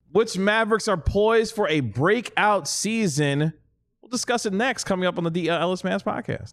Which Mavericks are poised for a breakout season? We'll discuss it next, coming up on the DL Ellis Mavs podcast.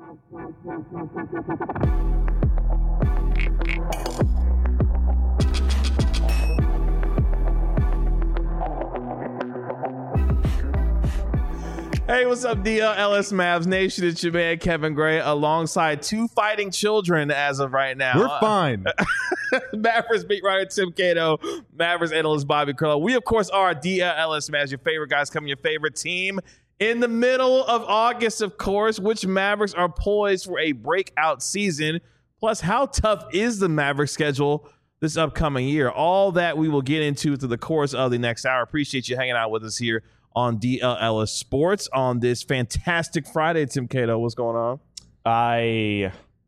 Hey, what's up, DL Ellis Mavs Nation? It's your man, Kevin Gray, alongside two fighting children as of right now. We're fine. Mavericks beat writer Tim Cato, Mavericks analyst Bobby Curlo. We, of course, are DL Ellis Mavs, your favorite guys coming, your favorite team. In the middle of August, of course, which Mavericks are poised for a breakout season? Plus, how tough is the Mavericks schedule this upcoming year? All that we will get into through the course of the next hour. Appreciate you hanging out with us here on DL Ellis Sports on this fantastic Friday. Tim Cato, what's going on? I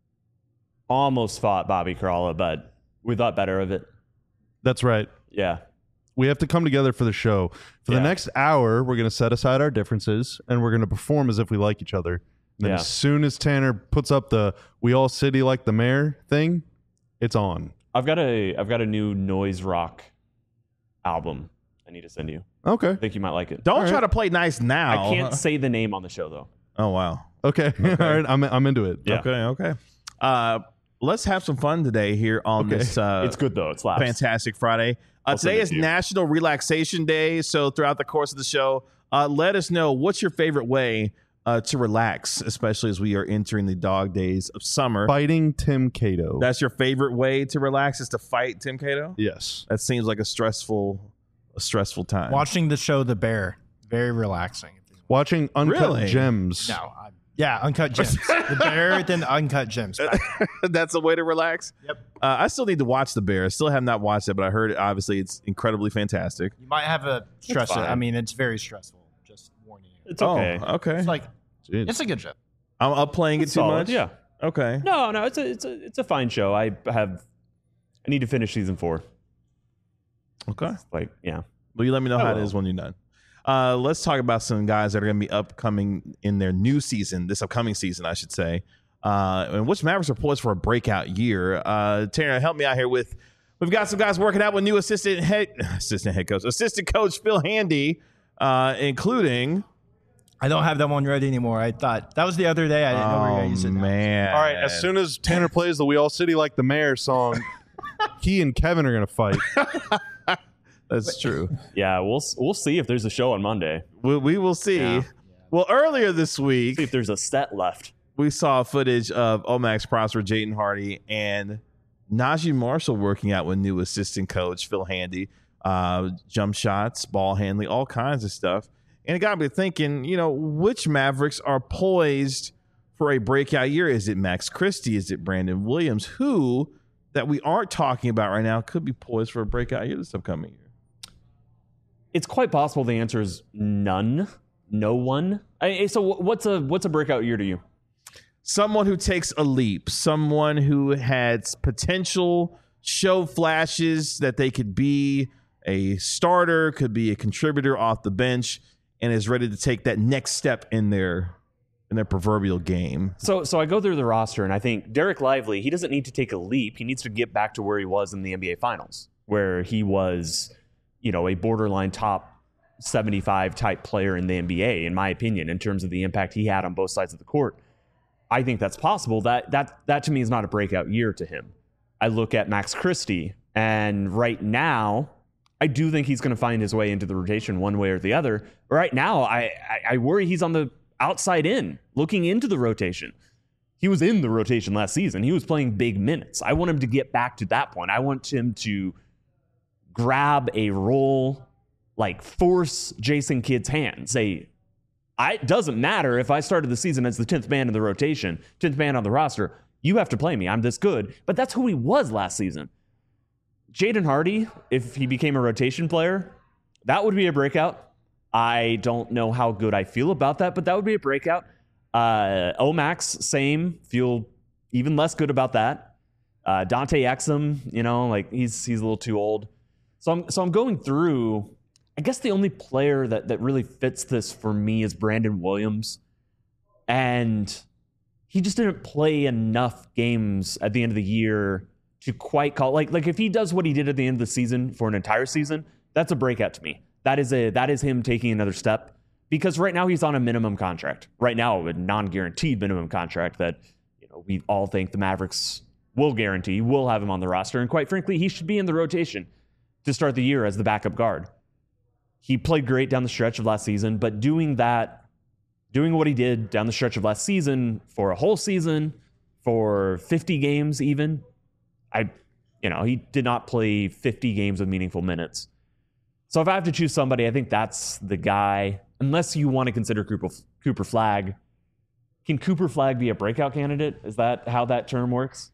almost fought Bobby Curlo, but we thought better of it. That's right. Yeah. We have to come together for the show. For the next hour, we're going to set aside our differences, and we're going to perform as if we like each other. And then as soon as Tanner puts up the "We All City Like the Mayor" thing, it's on. I've got a new noise rock album I need to send you. Okay. I think you might like it. Don't try to play nice now. I can't say the name on the show, though. Oh, wow. Okay. All right. I'm into it. Yeah. Okay. Let's have some fun today here on this. It's good, though. It slaps. Fantastic Friday. Today is National Relaxation Day. So throughout the course of the show, let us know what's your favorite way to relax, especially as we are entering the dog days of summer. Fighting Tim Cato. That's your favorite way to relax, is to fight Tim Cato? Yes. That seems like a stressful time. Watching the show The Bear, very relaxing. Watching Uncut Gems. No, Uncut Gems. The Bear, then Uncut Gems. That's a way to relax? Yep. I still need to watch The Bear. I still have not watched it, but I heard obviously it's incredibly fantastic. You might have a stress. fine. I mean, it's very stressful. Just warning you. It's okay. Oh, okay. It's like Jeez. it's a good show. I'm up playing it too Solid, much? Yeah. Okay. No, it's a fine show. I need to finish season 4. Okay. Yeah. Well, you let me know how it will. is when you're done. Let's talk about some guys that are going to be upcoming in their new season, this upcoming season, I should say. And which Mavericks are poised for a breakout year. Tanner, help me out here with. We've got some guys working out with new assistant coach Phil Handy, including. I don't have that one ready anymore. I thought that was the other day. I didn't know we were going to use it. Man. All right. As soon as Tanner plays the "We All City Like the Mayor" song, he and Kevin are going to fight. That's true. Yeah, we'll see if there's a show on Monday. We will see. Yeah. Well, earlier this week, See if there's a set left. we saw footage of Omax Prosper, Jaden Hardy, and Najee Marshall working out with new assistant coach Phil Handy. Jump shots, ball handling, all kinds of stuff. And it got me thinking, which Mavericks are poised for a breakout year? Is it Max Christie? Is it Brandon Williams? Who that we aren't talking about right now could be poised for a breakout year this upcoming year? It's quite possible the answer is none. No one. So what's a breakout year to you? Someone who takes a leap, someone who has potential, show flashes that they could be a starter, could be a contributor off the bench, and is ready to take that next step in their proverbial game. So I go through the roster, and I think Derek Lively, he doesn't need to take a leap. He needs to get back to where he was in the NBA Finals, where he was, a borderline top 75 type player in the NBA, in my opinion, in terms of the impact he had on both sides of the court. I think that's possible. That to me is not a breakout year to him. I look at Max Christie, and right now, I do think he's going to find his way into the rotation one way or the other. Right now, I worry he's on the outside in, looking into the rotation. He was in the rotation last season. He was playing big minutes. I want him to get back to that point. I want him to grab a role, like force Jason Kidd's hand. Say, it doesn't matter if I started the season as the 10th man in the rotation, 10th man on the roster. You have to play me. I'm this good. But that's who he was last season. Jaden Hardy, if he became a rotation player, that would be a breakout. I don't know how good I feel about that, but that would be a breakout. Omax, same. Feel even less good about that. Dante Exum, he's a little too old. So I'm going through. I guess the only player that really fits this for me is Brandon Williams. And he just didn't play enough games at the end of the year to quite call. Like if he does what he did at the end of the season for an entire season, That's a breakout to me. That is him taking another step, because right now he's on a minimum contract. Right now, a non-guaranteed minimum contract that we all think the Mavericks will guarantee, will have him on the roster. And quite frankly, he should be in the rotation to start the year as the backup guard. He played great down the stretch of last season, but doing what he did down the stretch of last season for a whole season, for 50 games even, he did not play 50 games of meaningful minutes. So if I have to choose somebody, I think that's the guy. Unless you want to consider Cooper Flagg. Can Cooper Flagg be a breakout candidate? Is that how that term works?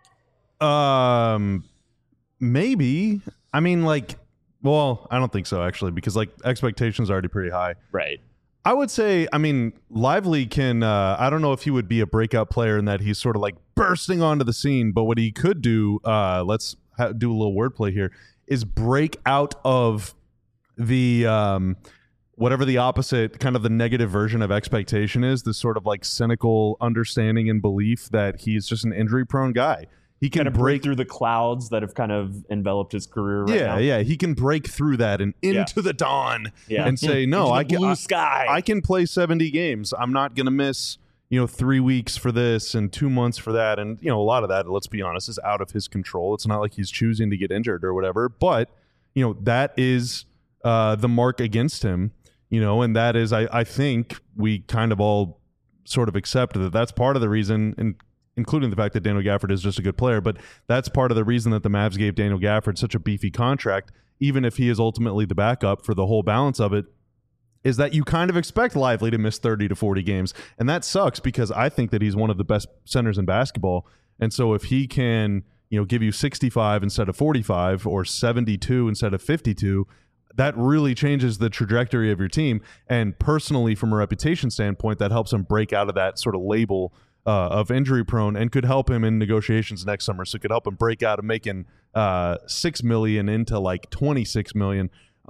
Maybe. I mean, I don't think so, actually, because expectations are already pretty high. Right. I would say, Lively can, I don't know if he would be a breakout player in that he's sort of bursting onto the scene, but what he could do, let's do a little wordplay here, is break out of the, whatever the opposite, kind of the negative version of expectation is, this sort of cynical understanding and belief that he's just an injury prone guy. He can kind of break through the clouds that have kind of enveloped his career right now. Yeah. He can break through that and into the dawn and say, no, blue sky. I can play 70 games. I'm not going to miss, 3 weeks for this and 2 months for that. And, a lot of that, let's be honest, is out of his control. It's not like he's choosing to get injured or whatever. But, that is the mark against him, and that is, I think we kind of all sort of accept that that's part of the reason, and including the fact that Daniel Gafford is just a good player, but that's part of the reason that the Mavs gave Daniel Gafford such a beefy contract, even if he is ultimately the backup for the whole balance of it, is that you kind of expect Lively to miss 30 to 40 games. And that sucks because I think that he's one of the best centers in basketball. And so if he can, give you 65 instead of 45 or 72 instead of 52, that really changes the trajectory of your team. And personally, from a reputation standpoint, that helps him break out of that sort of label of injury prone and could help him in negotiations next summer. So it could help him break out of making $6 million into $26 million.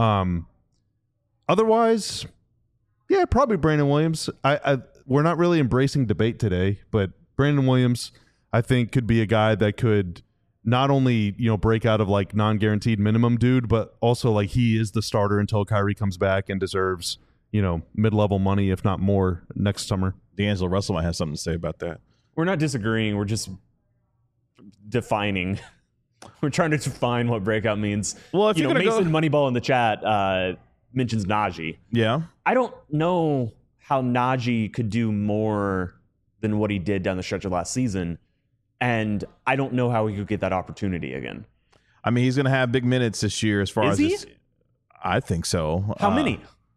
Otherwise, yeah, probably Brandon Williams. We're not really embracing debate today, but Brandon Williams, I think, could be a guy that could not only break out of non-guaranteed minimum dude, but also he is the starter until Kyrie comes back and deserves mid-level money, if not more, next summer. D'Angelo Russell might have something to say about that. We're not disagreeing. We're just defining. We're trying to define what breakout means. Well, if you're Mason Moneyball in the chat mentions Najee. Yeah. I don't know how Najee could do more than what he did down the stretch of last season, and I don't know how he could get that opportunity again. I mean, he's going to have big minutes this year as far Is as he? this, I think so. How many?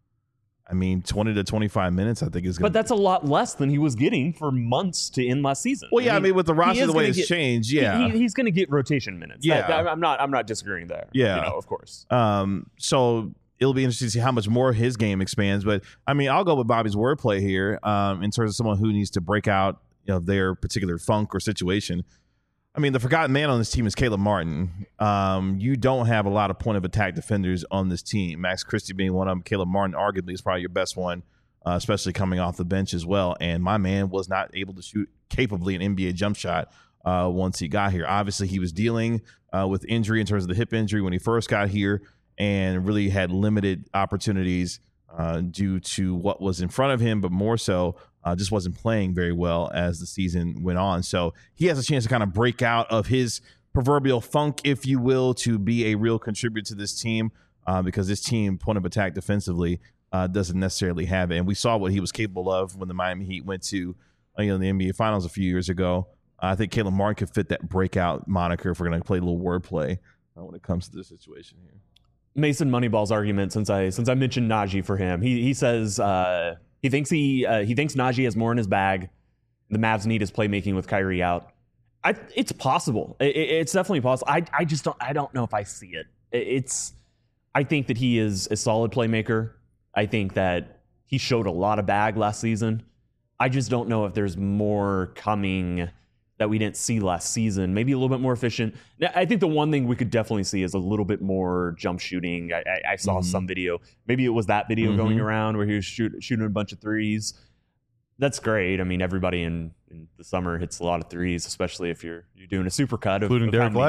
20 to 25 minutes, I think is going to. But that's a lot less than he was getting for months to end last season. Well, yeah, with the roster the way it's changed, yeah, he's going to get rotation minutes. Yeah, I'm not disagreeing there. Yeah, of course. So it'll be interesting to see how much more his game expands. But I'll go with Bobby's wordplay here in terms of someone who needs to break out their particular funk or situation. The forgotten man on this team is Caleb Martin. You don't have a lot of point of attack defenders on this team. Max Christie being one of them. Caleb Martin arguably is probably your best one, especially coming off the bench as well. And my man was not able to shoot capably an NBA jump shot once he got here. Obviously, he was dealing with injury in terms of the hip injury when he first got here and really had limited opportunities due to what was in front of him, but more so just wasn't playing very well as the season went on. So he has a chance to kind of break out of his proverbial funk, if you will, to be a real contributor to this team because this team, point of attack defensively, doesn't necessarily have it. And we saw what he was capable of when the Miami Heat went to the NBA Finals a few years ago. I think Caleb Martin could fit that breakout moniker if we're going to play a little wordplay when it comes to this situation here. Mason Moneyball's argument, since I mentioned Najee for him, he says he thinks Najee has more in his bag. The Mavs need his playmaking with Kyrie out. It's possible. It's definitely possible. I don't know if I see it. I think that he is a solid playmaker. I think that he showed a lot of bag last season. I just don't know if there's more coming that we didn't see last season. Maybe a little bit more efficient. I think the one thing we could definitely see is a little bit more jump shooting. I saw some video. Maybe it was that video going around where he was shooting a bunch of threes. That's great. Everybody in the summer hits a lot of threes, especially if you're doing a super cut. Including Derek Lively.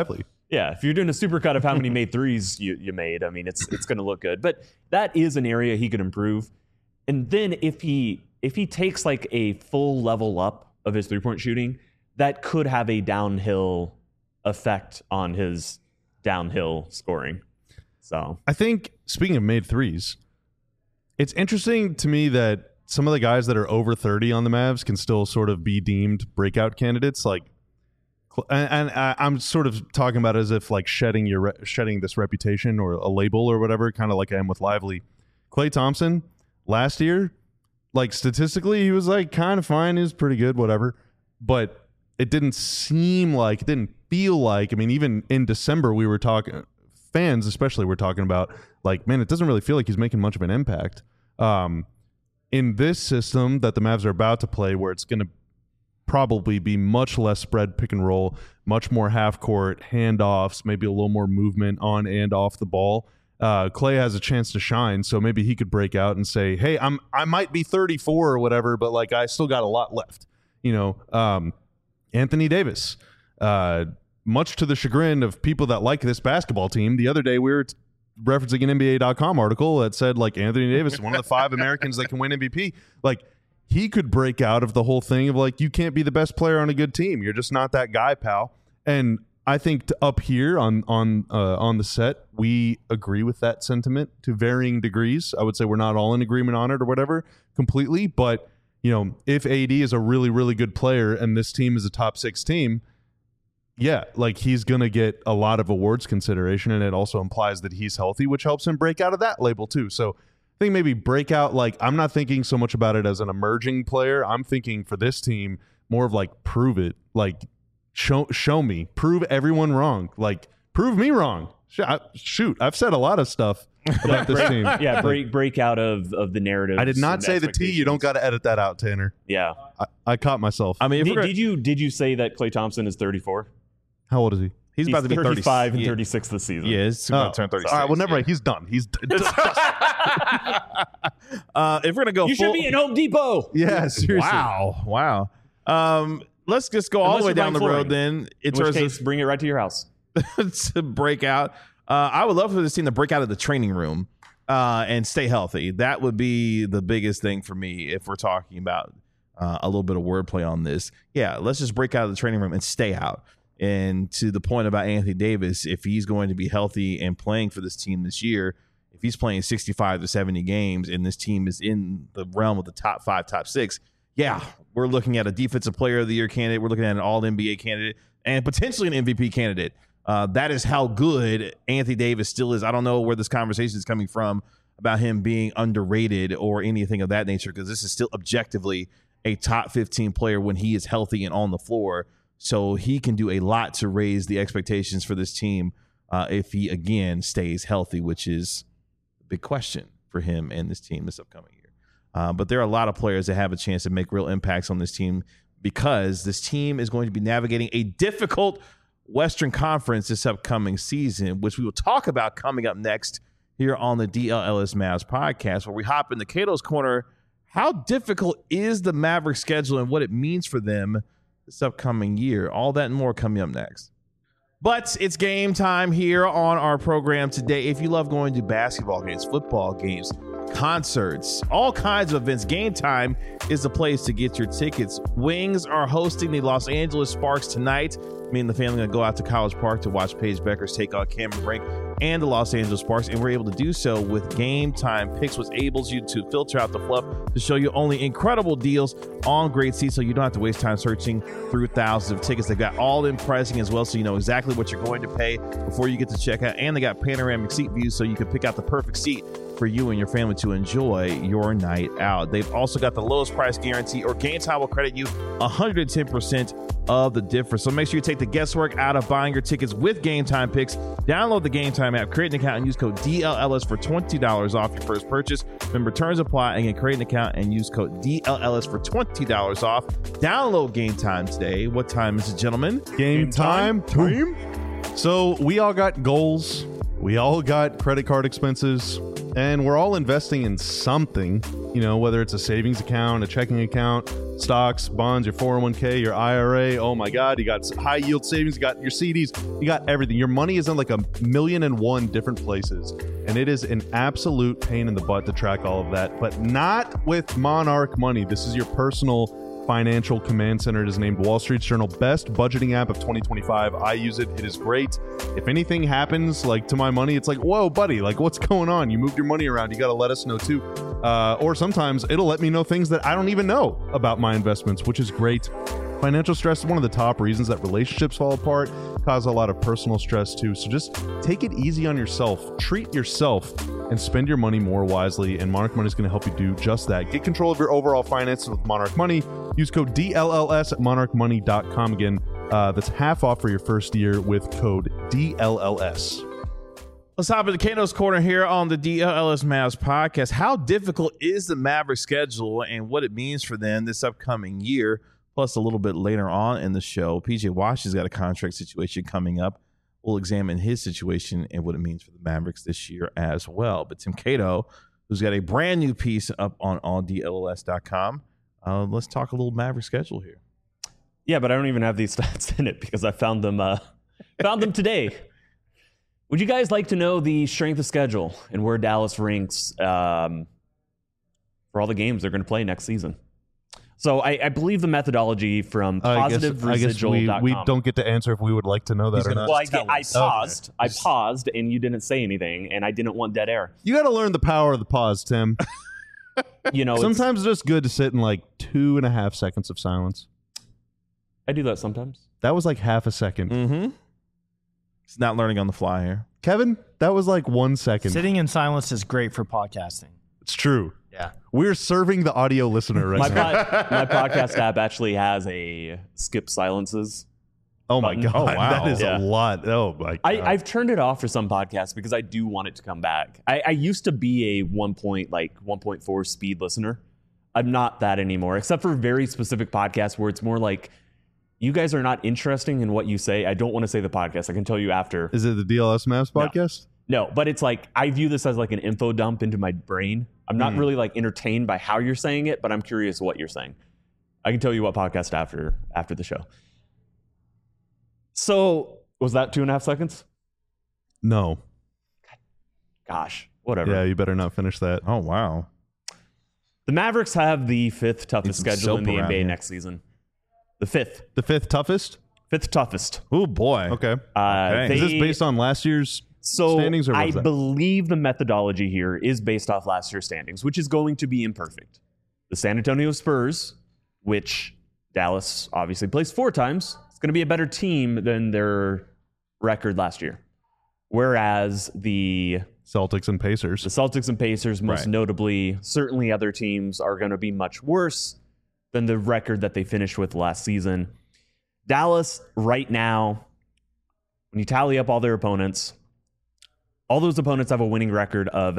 Yeah, if you're doing a supercut of how many made threes you made, I mean, it's going to look good. But that is an area he could improve. And then if he takes like a full level up of his 3-point shooting, that could have a downhill effect on his downhill scoring. So I think, speaking of made threes, it's interesting to me that some of the guys that are over 30 on the Mavs can still sort of be deemed breakout candidates. Like, and I'm sort of talking about it as if like shedding this reputation or a label or whatever, kind of like I am with Lively. Klay Thompson last year, like statistically, he was like kind of fine. He was pretty good, whatever. But it didn't feel like, I mean, even in December, we were talking, fans especially were talking about like, man, it doesn't really feel like he's making much of an impact. In this system that the Mavs are about to play, where it's going to probably be much less spread pick and roll, much more half court handoffs, maybe a little more movement on and off the ball. Klay has a chance to shine, so maybe he could break out and say, hey, I might be 34 or whatever, but like I still got a lot left. You know, Anthony Davis, much to the chagrin of people that like this basketball team, the other day we were referencing an NBA.com article that said like Anthony Davis is one of the 5 Americans that can win MVP. Like, he could break out of the whole thing of like, you can't be the best player on a good team. You're just not that guy, pal. And I think up here on the set, we agree with that sentiment to varying degrees. I would say we're not all in agreement on it or whatever completely, but you know, if AD is a really, really good player and this team is a top 6 team, yeah, like he's going to get a lot of awards consideration, and it also implies that he's healthy, which helps him break out of that label too. So I think maybe breakout, like I'm not thinking so much about it as an emerging player. I'm thinking for this team more of like prove it, like show me, prove everyone wrong, like prove me wrong. Shoot, I've said a lot of stuff about this team. Yeah, break out of the narrative. I did not say the T. You don't got to edit that out, Tanner. Yeah, I caught myself. I mean, did you say that Klay Thompson is 34? How old is he? He's about to be 35 and 36 this season. Yeah, he's about to turn 36. All right, well, never mind. He's done. He's if we're gonna go, you should be in Home Depot. Yeah, seriously. Wow. Let's just go all the way down the road then. In which case, bring it right to your house. To break out. I would love for this team to break out of the training room and stay healthy. That would be the biggest thing for me if we're talking about a little bit of wordplay on this. Yeah, let's just break out of the training room and stay out. And to the point about Anthony Davis, if he's going to be healthy and playing for this team this year, if he's playing 65 to 70 games and this team is in the realm of the top 5, top 6, yeah, we're looking at a defensive player of the year candidate. We're looking at an all-NBA candidate and potentially an MVP candidate. That is how good Anthony Davis still is. I don't know where this conversation is coming from about him being underrated or anything of that nature, because this is still objectively a top 15 player when he is healthy and on the floor. So he can do a lot to raise the expectations for this team if he, again, stays healthy, which is a big question for him and this team this upcoming year. But there are a lot of players that have a chance to make real impacts on this team, because this team is going to be navigating a difficult Western Conference this upcoming season, which we will talk about coming up next here on the DLLS Mavs podcast, where we hop into Cato's Corner. How difficult is the Mavericks schedule and what it means for them this upcoming year? All that and more coming up next. But it's game time here on our program today. If you love going to basketball games, football games, concerts, all kinds of events, Game Time is the place to get your tickets. Wings are hosting the Los Angeles Sparks tonight. Me and the family are going to go out to College Park to watch Paige Beckers take on Cameron Brink and the Los Angeles Sparks, and we're able to do so with Game Time Picks, which enables you to filter out the fluff to show you only incredible deals on great seats, so you don't have to waste time searching through thousands of tickets. They've got all-in pricing as well, so you know exactly what you're going to pay before you get to checkout, and they got panoramic seat views, so you can pick out the perfect seat for you and your family to enjoy your night out. They've also got the lowest price guarantee, or Game Time will credit you 110% of the difference. So make sure you take the guesswork out of buying your tickets with Game Time Picks. Download the Game Time app, create an account, and use code DLLS for $20 off your first purchase. Remember, terms apply. Again, create an account and use code DLLS for $20 off. Download Game Time today. What time is it, gentlemen? Game time. So we all got goals. We all got credit card expenses. And we're all investing in something, whether it's a savings account, a checking account, stocks, bonds, your 401k, your IRA. Oh my God, you got high yield savings, you got your CDs, you got everything. Your money is in like 1,000,001 different places. And it is an absolute pain in the butt to track all of that, but not with Monarch Money. This is your personal financial command center. It is named Wall Street's Journal Best Budgeting App of 2025. I use it. It is great. If anything happens like to my money, it's like, whoa, buddy, like what's going on? You moved your money around. You got to let us know too. Or sometimes it'll let me know things that I don't even know about my investments, which is great. Financial stress is one of the top reasons that relationships fall apart, cause a lot of personal stress too. So just take it easy on yourself, treat yourself, and spend your money more wisely. And Monarch Money is going to help you do just that. Get control of your overall finances with Monarch Money. Use code DLLS at monarchmoney.com. Again, that's half off for your first year with code DLLS. Let's hop into Kano's Corner here on the DLLS Mavs podcast. How difficult is the Mavericks schedule and what it means for them this upcoming year? Plus, a little bit later on in the show, PJ Wash has got a contract situation coming up. We'll examine his situation and what it means for the Mavericks this year as well. But Tim Cato, who's got a brand new piece up on alldlls.com, let's talk a little Maverick schedule here. Yeah, but I don't even have these stats in it because I found them today. Would you guys like to know the strength of schedule and where Dallas ranks for all the games they're going to play next season? So I believe the methodology from PositiveResidual.com. I guess we don't get to answer if we would like to know that or not. Well, I paused, and you didn't say anything, and I didn't want dead air. You got to learn the power of the pause, Tim. Sometimes it's just good to sit in like 2.5 seconds of silence. I do that sometimes. That was like half a second. Mm-hmm. It's not learning on the fly here. Kevin, that was like 1 second. Sitting in silence is great for podcasting. It's true. Yeah. We're serving the audio listener right now. My podcast app actually has a skip silences. Oh my God. Oh, wow. That is a lot. Oh my God. I've turned it off for some podcasts because I do want it to come back. I used to be a 1.4 speed listener. I'm not that anymore, except for very specific podcasts where it's more like, you guys are not interesting in what you say. I don't want to say the podcast. I can tell you after. Is it the DLS Mavs podcast? No, but it's like, I view this as like an info dump into my brain. I'm not really like entertained by how you're saying it, but I'm curious what you're saying. I can tell you what podcast after the show. So was that 2.5 seconds? No. Gosh, whatever. Yeah, you better not finish that. Oh, wow. The Mavericks have the 5th toughest schedule in the NBA next season. The 5th. The 5th toughest? 5th toughest. Oh, boy. Okay. Okay. Is this based on last year's standings? Or I believe the methodology here is based off last year's standings, which is going to be imperfect. The San Antonio Spurs, which Dallas obviously plays 4 times, it's going to be a better team than their record last year. Whereas the Celtics and Pacers, most notably, certainly other teams are going to be much worse than the record that they finished with last season. Dallas, right now, when you tally up all their opponents, all those opponents have a winning record of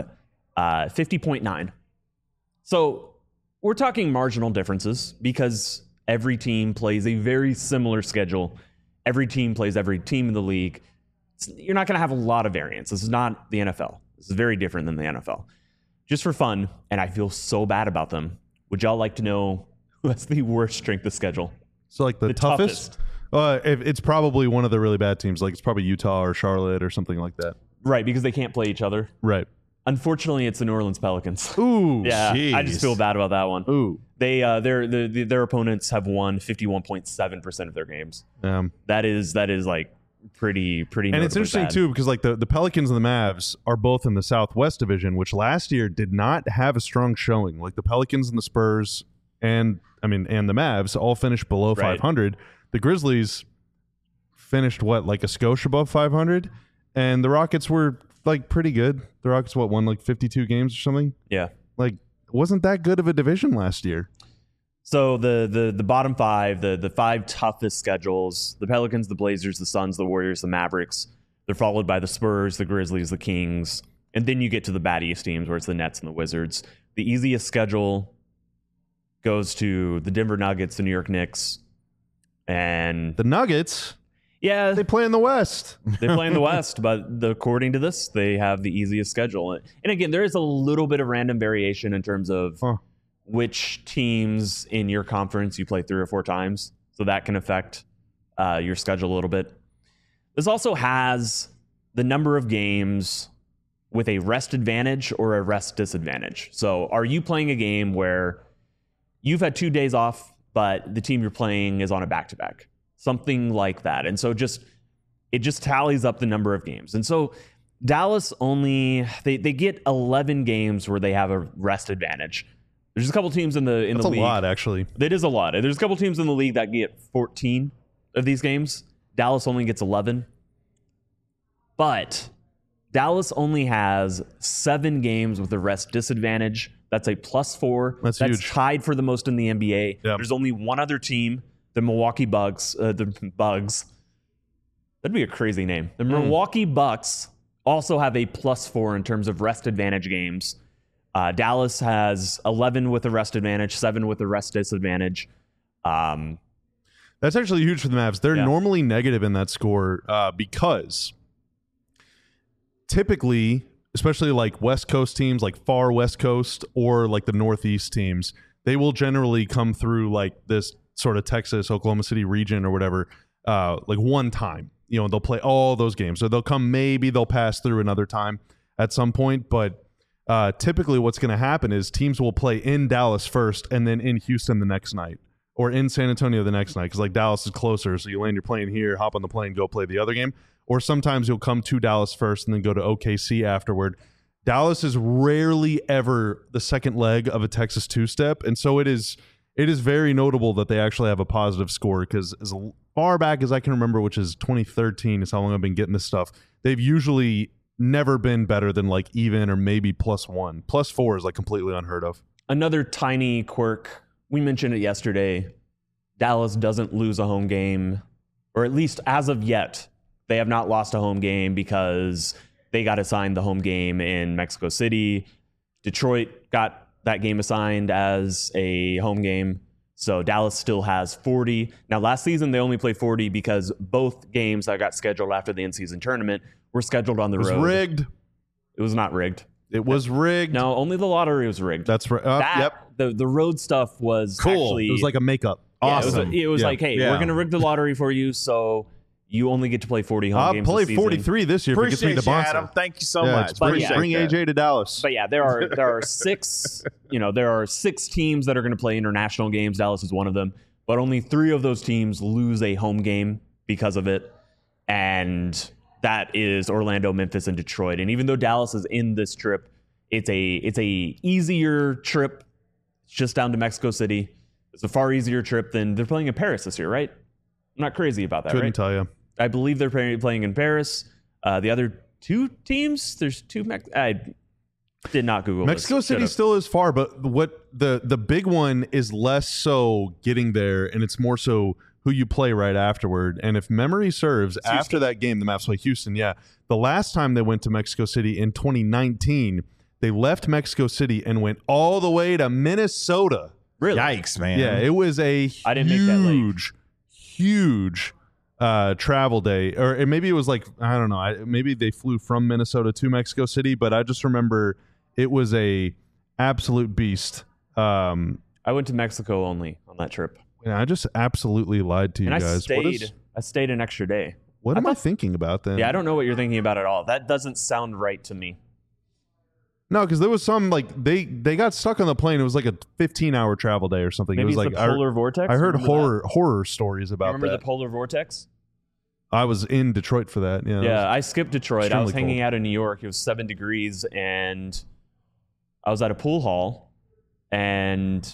50.9. So we're talking marginal differences because every team plays a very similar schedule. Every team plays every team in the league. You're not going to have a lot of variance. This is not the NFL. This is very different than the NFL. Just for fun, and I feel so bad about them, would y'all like to know who has the worst strength of schedule? So like the toughest? It's probably one of the really bad teams. Like it's probably Utah or Charlotte or something like that. Right, because they can't play each other. Right. Unfortunately, it's the New Orleans Pelicans. Ooh, yeah, geez. I just feel bad about that one. Ooh, their opponents have won 51.7% of their games. That is like pretty. And it's interesting bad. too because like the Pelicans and the Mavs are both in the Southwest Division, which last year did not have a strong showing. Like the Pelicans and the Spurs and the Mavs all finished below 500. The Grizzlies finished like a skosh above 500, and the Rockets were like pretty good. The Rockets won like 52 games or something. Yeah, like wasn't that good of a division last year. So the bottom 5, the 5 toughest schedules: the Pelicans, the Blazers, the Suns, the Warriors, the Mavericks. They're followed by the Spurs, the Grizzlies, the Kings, and then you get to the baddiest teams where it's the Nets and the Wizards. The easiest schedule goes to the Denver Nuggets, the New York Knicks, and the Nuggets. Yeah, They play in the West. they play in the West, but according to this, they have the easiest schedule. And again, there is a little bit of random variation in terms of which teams in your conference you play 3 or 4 times. So that can affect your schedule a little bit. This also has the number of games with a rest advantage or a rest disadvantage. So are you playing a game where you've had 2 days off, but the team you're playing is on a back-to-back? Something like that. And so it just tallies up the number of games. And so Dallas they get 11 games where they have a rest advantage. There's a couple teams in the league. That's a lot, actually. That is a lot. There's a couple teams in the league that get 14 of these games. Dallas only gets 11. But Dallas only has 7 games with a rest disadvantage. That's a +4. That's huge. Tied for the most in the NBA. Yep. There's only one other team, the Milwaukee Bucks. The Bugs. That'd be a crazy name. The Milwaukee Bucks also have a +4 in terms of rest advantage games. Dallas has 11 with a rest advantage, 7 with a rest disadvantage. That's actually huge for the Mavs. They're normally negative in that score because typically, especially like West Coast teams, like far West Coast or like the Northeast teams, they will generally come through like this sort of Texas, Oklahoma City region or whatever, like one time. You know, they'll play all those games. So they'll pass through another time at some point, but typically what's going to happen is teams will play in Dallas first and then in Houston the next night or in San Antonio the next night because like Dallas is closer. So you land your plane here, hop on the plane, go play the other game. Or sometimes you'll come to Dallas first and then go to OKC afterward. Dallas is rarely ever the second leg of a Texas two-step. And so it is very notable that they actually have a positive score because as far back as I can remember, which is 2013 is how long I've been getting this stuff, they've usually never been better than like even or maybe +1. +4 is like completely unheard of. Another tiny quirk, we mentioned it yesterday, Dallas doesn't lose a home game, or at least as of yet, they have not lost a home game because they got assigned the home game in Mexico City. Detroit got that game assigned as a home game. So Dallas still has 40. Now, last season, they only played 40 because both games that got scheduled after the in-season tournament were scheduled on the road. It was rigged. It was not rigged. It was rigged. No, only the lottery was rigged. That's right. Yep. The road stuff was Cool. actually... It was like a makeup. Awesome. It was like, hey, we're going to rig the lottery for you, so you only get to play 40 home games I'll play this season. 43 this year if it gets me Appreciate to you, Bonson. Adam. Thank you so much. Bring Appreciate that. AJ to Dallas. But yeah, there are 6, there are 6 teams that are going to play international games. Dallas is one of them. But only 3 of those teams lose a home game because of it. And that is Orlando, Memphis, and Detroit. And even though Dallas is in this trip, it's a easier trip. It's just down to Mexico City. It's a far easier trip than they're playing in Paris this year, right? I'm not crazy about that, Couldn't right? tell you. I believe they're playing in Paris. The other 2 teams, there's 2. I did not Google Mexico this. City still is far, but what the big one is less so getting there, and it's more so who you play right afterward. And if memory serves, after that game, the Mavs play Houston. Yeah, the last time they went to Mexico City in 2019, they left Mexico City and went all the way to Minnesota. Really? Yikes, man. Yeah, it was a I didn't make that late. huge travel day, or maybe it was like, I don't know, maybe they flew from Minnesota to Mexico City, but I just remember it was a absolute beast. I went to Mexico only on that trip. And I just absolutely lied to you And guys. I stayed an extra day. What am I thinking about then? Yeah, I don't know what you're thinking about at all. That doesn't sound right to me. No, because there was some like they got stuck on the plane. It was like a 15-hour travel day or something. Maybe it was it's like the polar vortex. I heard Remember horror stories that? about Remember that. the polar vortex? I was in Detroit for that. Yeah. Yeah, I skipped Detroit. I was extremely hanging cold. out in New York. It was 7 degrees, and I was at a pool hall, and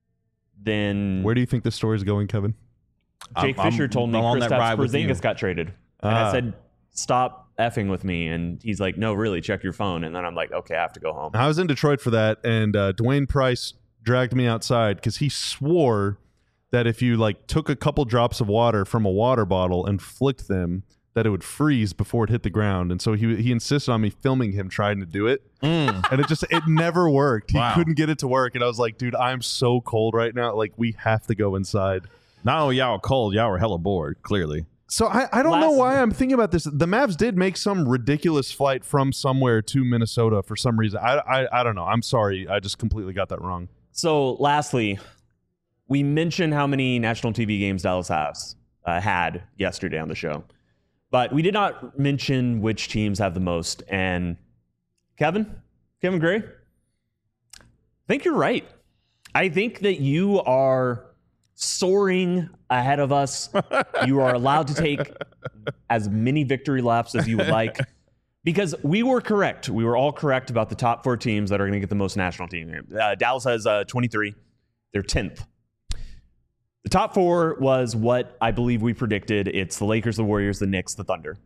then Where do you think this story is going, Kevin? Jake Fisher told me I'm on that Kristaps ride with you. Porzingis got traded. And I said, stop effing with me. And he's like, no, really, check your phone. And then I'm like, okay, I have to go home. I was in Detroit for that, and Dwayne Price dragged me outside because he swore that if you like took a couple drops of water from a water bottle and flicked them, that it would freeze before it hit the ground. And so he insisted on me filming him trying to do it, and it never worked. He Wow. couldn't get it to work, and I was like, dude, I'm so cold right now. Like, we have to go inside. Not only y'all were cold, y'all were hella bored, clearly. So I don't know why I'm thinking about this. The Mavs did make some ridiculous flight from somewhere to Minnesota for some reason. I don't know. I'm sorry. I just completely got that wrong. So lastly, we mentioned how many national TV games Dallas has had yesterday on the show, but we did not mention which teams have the most. And Kevin Gray, I think you're right. I think that you are soaring ahead of us. You are allowed to take as many victory laps as you would like, because we were correct. We were all correct about the top 4 teams that are going to get the most national team games. Dallas has 23. They're 10th. The top 4 was what I believe we predicted. It's the Lakers, the Warriors, the Knicks, the Thunder.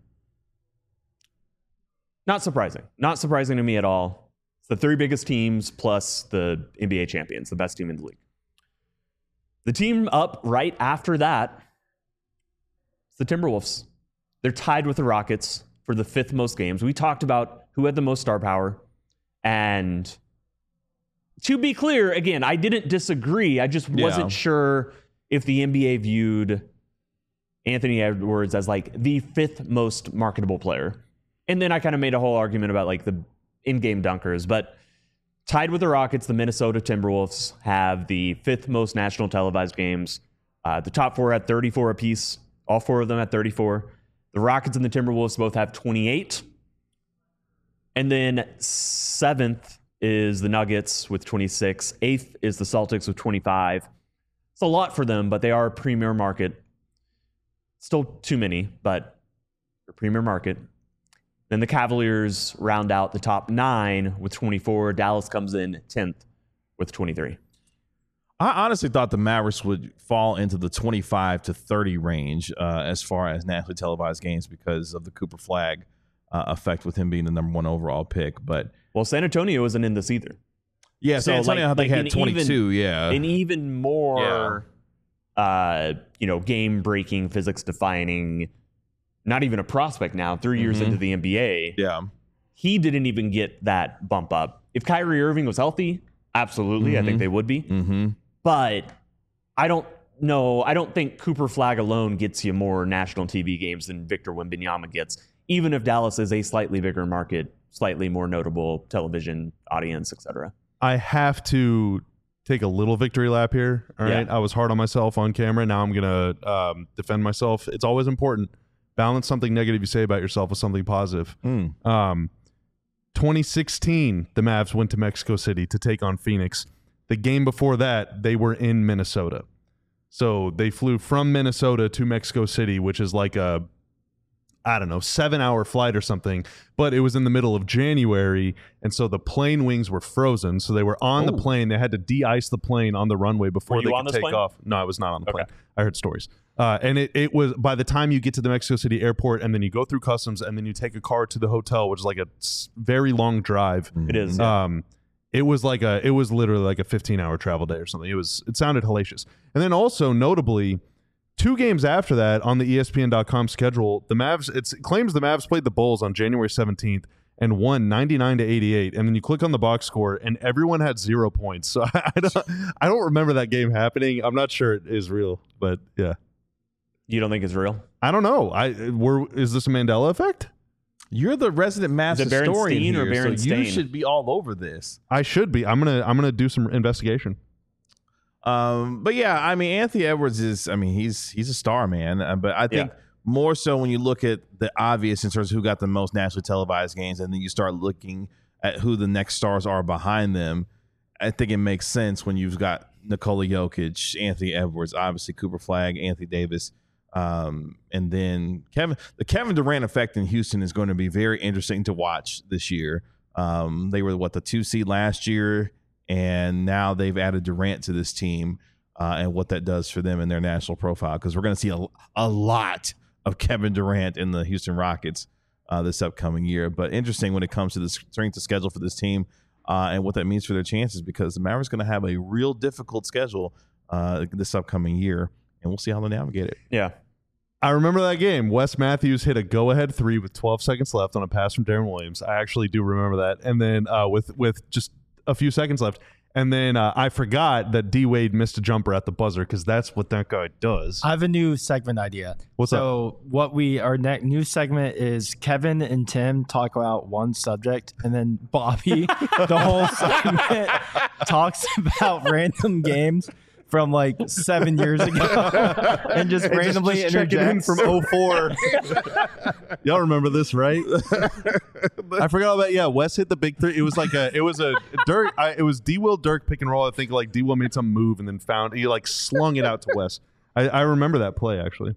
Not surprising. Not surprising to me at all. It's the 3 biggest teams plus the NBA champions, the best team in the league. The team up right after that is the Timberwolves. They're tied with the Rockets for the 5th most games. We talked about who had the most star power. And to be clear, again, I didn't disagree. I just wasn't sure if the NBA viewed Anthony Edwards as like the 5th most marketable player. And then I kind of made a whole argument about like the in-game dunkers. But tied with the Rockets, the Minnesota Timberwolves have the 5th most national televised games. The top 4 had 34 apiece. All 4 of them had 34. The Rockets and the Timberwolves both have 28. And then 7th is the Nuggets with 26. 8th is the Celtics with 25. It's a lot for them, but they are a premier market. Still too many, but a premier market. Then the Cavaliers round out the top 9 with 24. Dallas comes in 10th with 23. I honestly thought the Mavericks would fall into the 25 to 30 range as far as nationally televised games because of the Cooper Flag effect with him being the number 1 overall pick. But San Antonio isn't in this either. Yeah, San Antonio I think had 22. An even more, game-breaking, physics-defining. Not even a prospect now, 3 years into the NBA. Yeah. He didn't even get that bump up. If Kyrie Irving was healthy, absolutely, I think they would be. But I don't know. I don't think Cooper Flag alone gets you more national TV games than Victor Wembanyama gets, even if Dallas is a slightly bigger market, slightly more notable television audience, etc. I have to take a little victory lap here. All right. I was hard on myself on camera. Now I'm going to defend myself. It's always important. Balance something negative you say about yourself with something positive. 2016, the Mavs went to Mexico City to take on Phoenix. The game before that, they were in Minnesota. So they flew from Minnesota to Mexico City, which is like a, 7-hour flight or something. But it was in the middle of January, and so the plane wings were frozen. So they were on the plane. They had to de-ice the plane on the runway before they could take off. No, I was not on the plane. I heard stories. And it was, by the time you get to the Mexico City airport and then you go through customs and then you take a car to the hotel, which is like a very long drive. It is. It was literally like a 15-hour travel day or something. It sounded hellacious. And then also notably, 2 games after that on the ESPN.com schedule, it claims the Mavs played the Bulls on January 17th and won 99-88. And then you click on the box score and everyone had 0 points. So I don't remember that game happening. I'm not sure it is real, but yeah. You don't think it's real? I don't know. Is this a Mandela effect? You're the resident Mavs historian here, Baron so Stain? you should be all over this. I should be. I'm gonna do some investigation. But yeah, I mean, Anthony Edwards is, he's a star, man. But I think more so when you look at the obvious in terms of who got the most nationally televised games, and then you start looking at who the next stars are behind them, I think it makes sense when you've got Nikola Jokic, Anthony Edwards, obviously Cooper Flag, Anthony Davis, and then the Kevin Durant effect in Houston is going to be very interesting to watch this year. They were the 2 seed last year, and now they've added Durant to this team, and what that does for them in their national profile, because we're going to see a lot of Kevin Durant in the Houston Rockets this upcoming year. But interesting when it comes to the strength of schedule for this team and what that means for their chances, because the Mavericks going to have a real difficult schedule this upcoming year, and we'll see how they navigate it. Yeah. I remember that game. Wes Matthews hit a go-ahead 3 with 12 seconds left on a pass from Darren Williams. I actually do remember that. And then with just a few seconds left, And then I forgot that D Wade missed a jumper at the buzzer because that's what that guy does. I have a new segment idea. What's so what our new segment is Kevin and Tim talk about one subject, and then Bobby, the whole segment, talks about random games from like 7 years ago and just randomly just checking in interjects. from 04. Y'all remember this, right? I forgot about Wes hit the big three. It was like it was Dirk. It was D Will Dirk pick and roll. I think like D Will made some move and then he like slung it out to Wes. I remember that play actually.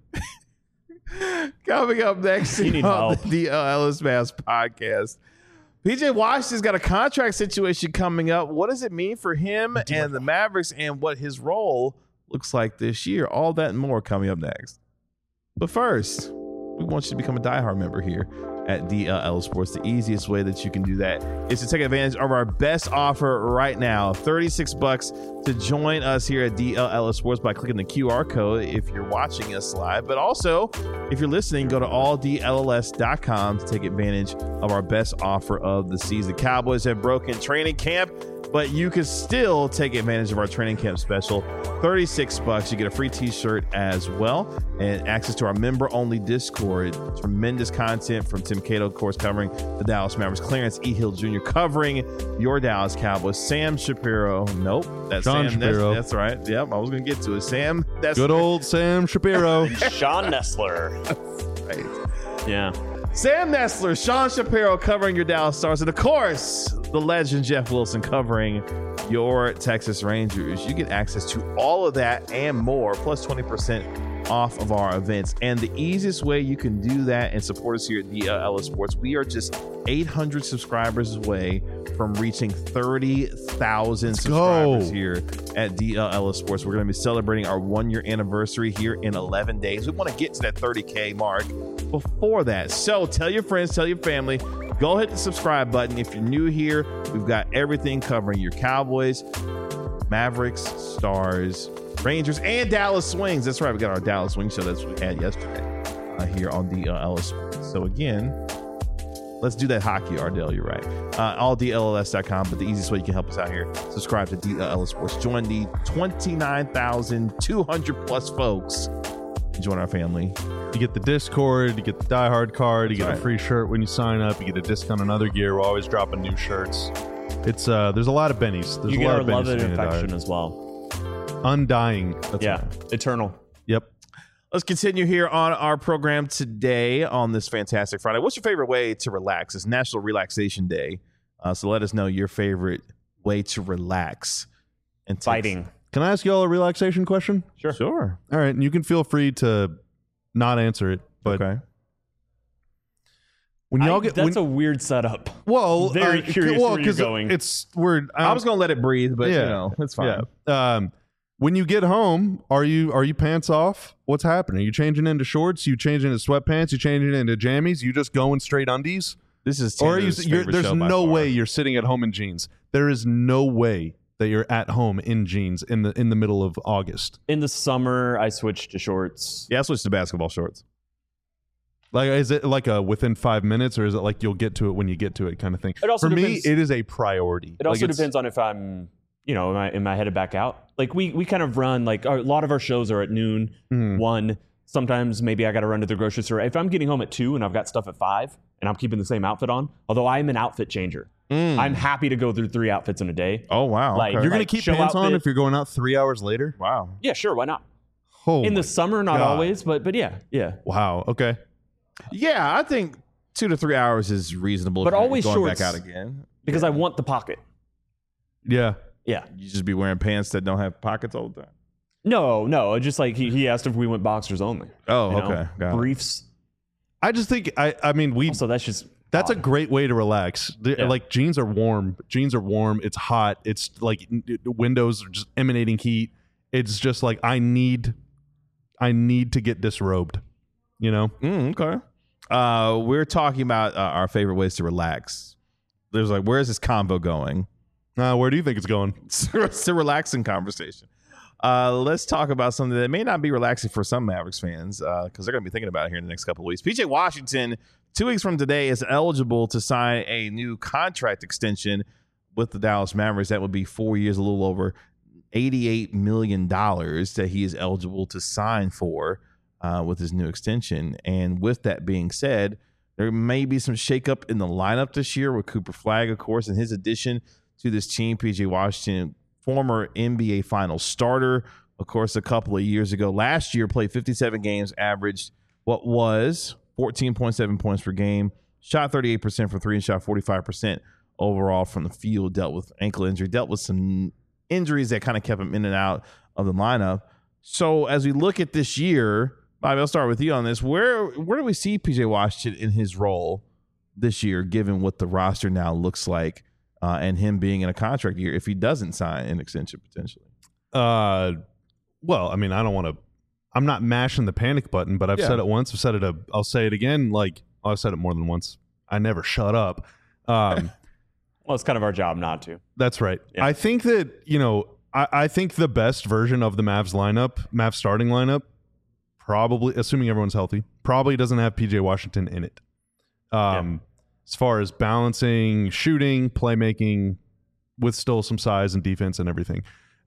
Coming up next on the DL Ellis Mass podcast. PJ Washington's got a contract situation coming up. What does it mean for him and the Mavericks and what his role looks like this year? All that and more coming up next. But first, we want you to become a diehard member here at DLL Sports. The easiest way that you can do that is to take advantage of our best offer right now. $36 to join us here at DLL Sports by clicking the QR code if you're watching us live. But also, if you're listening, go to alldlls.com to take advantage of our best offer of the season. Cowboys have broken training camp, but you can still take advantage of our training camp special. $36. You get a free t-shirt as well and access to our member-only Discord. Tremendous content from Tim Cato, of course, covering the Dallas Mavericks. Clarence E. Hill Jr. covering your Dallas Cowboys. Sam Shapiro. Nope. That's Sean Sam. Shapiro. That's right. Yep. I was going to get to it. Sam. That's Good old Sam Shapiro. Sean Nestler. right. Yeah. Sam Nestler, Sean Shapiro covering your Dallas Stars, and of course, the legend Jeff Wilson covering your Texas Rangers. You get access to all of that and more, plus 20% off of our events. And the easiest way you can do that and support us here at DLL Sports, we are just 800 subscribers away from reaching 30,000 subscribers here at DLL Sports. We're going to be celebrating our 1-year anniversary here in 11 days. We want to get to that 30K mark before that. So tell your friends, tell your family, go hit the subscribe button. If you're new here, we've got everything covering your Cowboys, Mavericks, Stars, Rangers, and Dallas Swings. That's right. We got our Dallas Swing show. That's what we had yesterday here on DLL Sports. So again, let's do that hockey, Ardell. You're right. AllDLLS.com. But the easiest way you can help us out here, subscribe to DLL Sports. Join the 29,200 plus folks. Join our family. You get the Discord, you get the Die Hard card, you get a free shirt when you sign up, you get a discount on other gear. We're always dropping new shirts. It's there's a lot of bennies. There's You a get lot our of love bennies and to affection Die as well. Hard. Undying. Eternal. Yep. Let's continue here on our program today on this fantastic Friday. What's your favorite way to relax? It's National Relaxation Day. So let us know your favorite way to relax. And Fighting. Can I ask you all a relaxation question? Sure. All right, and you can feel free to not answer it, but Okay. when y'all get That's a weird setup. very curious where you're 'cause going. I was going to let it breathe, but it's fine. Yeah. When you get home, are you pants off? What's happening? Are you changing into shorts? You changing into sweatpants? You changing into jammies? You just going straight undies? This is Or are you? Tanner's favorite There's show by no far. way you're sitting at home in jeans. There is no way that you're at home in jeans in the middle of August. In the summer, I switched to shorts. Yeah, I switched to basketball shorts. Like, is it like a within 5 minutes, or is it like you'll get to it when you get to it kind of thing? It also For depends- me, it is a priority. It also Like, depends on if I'm, am I headed back out? Like we kind of run, like a lot of our shows are at noon, 1. Sometimes maybe I got to run to the grocery store. If I'm getting home at 2 and I've got stuff at 5 and I'm keeping the same outfit on, although I'm an outfit changer. I'm happy to go through 3 outfits in a day. Oh, wow. Like, okay. You're gonna like keep show pants on outfit. if you're going out 3 hours later. Wow. Yeah, sure, why not? Oh In my the summer, not God. always, but yeah. Wow. Okay. Yeah, I think 2 to 3 hours is reasonable. But if you're always going shorts. back out again. Because I want the pocket. Yeah. Yeah. You just be wearing pants that don't have pockets all the time. No. Just like he asked if we went boxers only. Oh, You know? okay. Got it. Briefs. I just think I mean Also, that's just that's a odd. great way to relax. Yeah. Like jeans are warm. It's hot. It's like windows are just emanating heat. It's just like I need to get disrobed. You know? Okay. We're talking about our favorite ways to relax. There's like, where is this convo going? Where do you think it's going? It's a relaxing conversation. Let's talk about something that may not be relaxing for some Mavericks fans because they're going to be thinking about it here in the next couple of weeks. PJ Washington, 2 weeks from today, is eligible to sign a new contract extension, with the Dallas Mavericks, that would be 4 years, a little over $88 million that he is eligible to sign for with his new extension. And with that being said, there may be some shakeup in the lineup this year with Cooper Flagg, of course, and his addition to this team. PJ Washington, former NBA Finals starter, of course, a couple of years ago. Last year, played 57 games, averaged what was 14.7 points per game, shot 38% from three, and shot 45% overall from the field. Dealt with ankle injury, dealt with some injuries that kind of kept him in and out of the lineup. So as we look at this year, Bobby, I'll start with you on this. Where do we see PJ Washington in his role this year, given what the roster now looks like, and him being in a contract year if he doesn't sign an extension potentially? Well, I mean, I'm not mashing the panic button, but I've said it once. I'll say it again. I've said it more than once. I never shut up. Well, it's kind of our job not to. That's right. Yeah. I think that, I think the best version of the Mavs starting lineup, probably, assuming everyone's healthy, probably doesn't have PJ Washington in it. As far as balancing, shooting, playmaking, with still some size and defense and everything.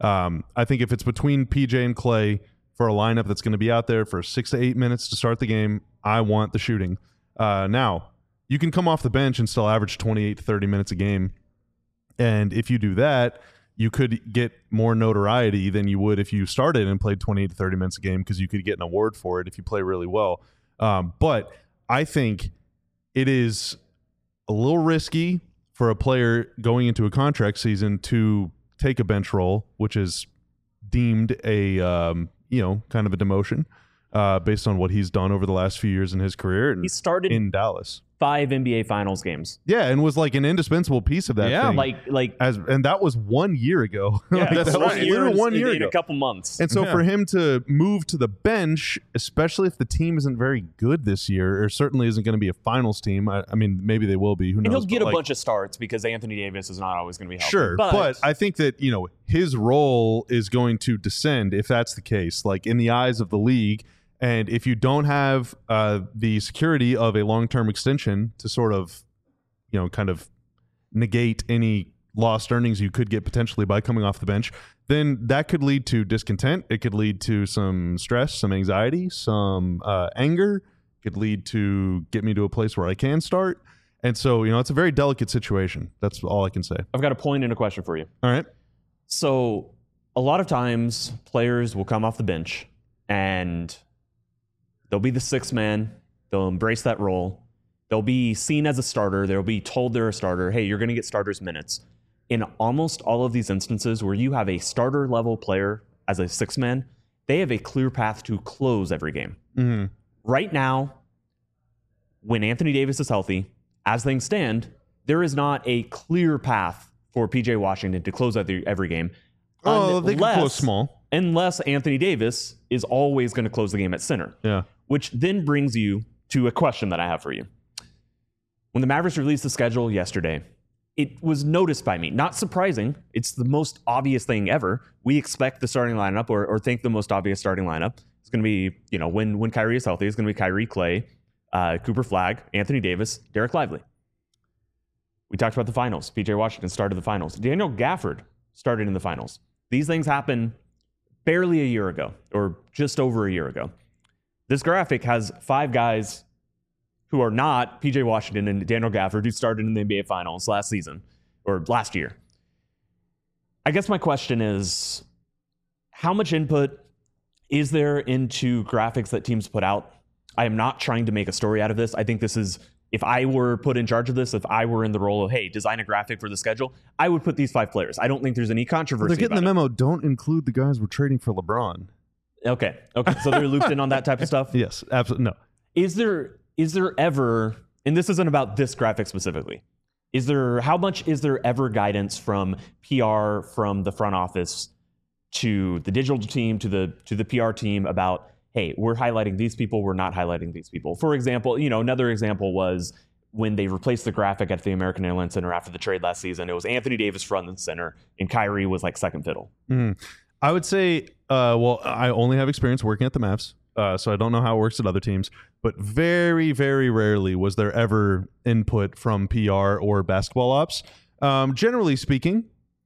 I think if it's between PJ and Clay for a lineup that's going to be out there for 6 to 8 minutes to start the game, I want the shooting. Now, you can come off the bench and still average 28 to 30 minutes a game. And if you do that, you could get more notoriety than you would if you started and played 28 to 30 minutes a game, because you could get an award for it if you play really well. But I think it is a little risky for a player going into a contract season to take a bench role, which is deemed a kind of a demotion based on what he's done over the last few years in his career. And he started in Dallas 5 NBA Finals games. Yeah, and was like an indispensable piece of that. Yeah, thing. And that was 1 year ago. Yeah, that was literally 1 year in ago. a couple months. And so for him to move to the bench, especially if the team isn't very good this year, or certainly isn't going to be a finals team. I mean, maybe they will be. Who knows? And he'll get a bunch of starts because Anthony Davis is not always going to be healthy. Sure, but I think that his role is going to descend if that's the case. Like in the eyes of the league. And if you don't have the security of a long-term extension to sort of, kind of negate any lost earnings you could get potentially by coming off the bench, then that could lead to discontent. It could lead to some stress, some anxiety, some anger. It could lead to get me to a place where I can start. And so, it's a very delicate situation. That's all I can say. I've got a point and a question for you. All right. So a lot of times players will come off the bench and they'll be the sixth man. They'll embrace that role. They'll be seen as a starter. They'll be told they're a starter. Hey, you're going to get starters minutes. In almost all of these instances where you have a starter level player as a sixth man, they have a clear path to close every game. Mm-hmm. Right now, when Anthony Davis is healthy, as things stand, there is not a clear path for PJ Washington to close every game. Oh, they can close small. Unless Anthony Davis is always going to close the game at center. Yeah. Which then brings you to a question that I have for you. When the Mavericks released the schedule yesterday, it was noticed by me. Not surprising. It's the most obvious thing ever. We expect the starting lineup or think the most obvious starting lineup is going to be, when Kyrie is healthy, it's going to be Kyrie, Clay, Cooper Flagg, Anthony Davis, Derek Lively. We talked about the finals. PJ Washington started the finals. Daniel Gafford started in the finals. These things happened barely a year ago, or just over a year ago. This graphic has 5 guys who are not PJ Washington and Daniel Gafford, who started in the NBA Finals last season, or last year. I guess my question is, how much input is there into graphics that teams put out? I am not trying to make a story out of this. I think this is, if I were put in charge of this, if I were in the role of, hey, design a graphic for the schedule, I would put these 5 players. I don't think there's any controversy. They're getting the memo. Don't include the guys we're trading for LeBron. Okay. So they're looped in on that type of stuff? Yes, absolutely. No. Is there ever, and this isn't about this graphic specifically, how much is there ever guidance from PR, from the front office to the digital team, to the PR team about, hey, we're highlighting these people, we're not highlighting these people? For example, another example was when they replaced the graphic at the American Airlines Center after the trade last season. It was Anthony Davis front and center, and Kyrie was like second fiddle. I would say, I only have experience working at the Mavs, so I don't know how it works at other teams, but very, very rarely was there ever input from PR or basketball ops. Generally speaking,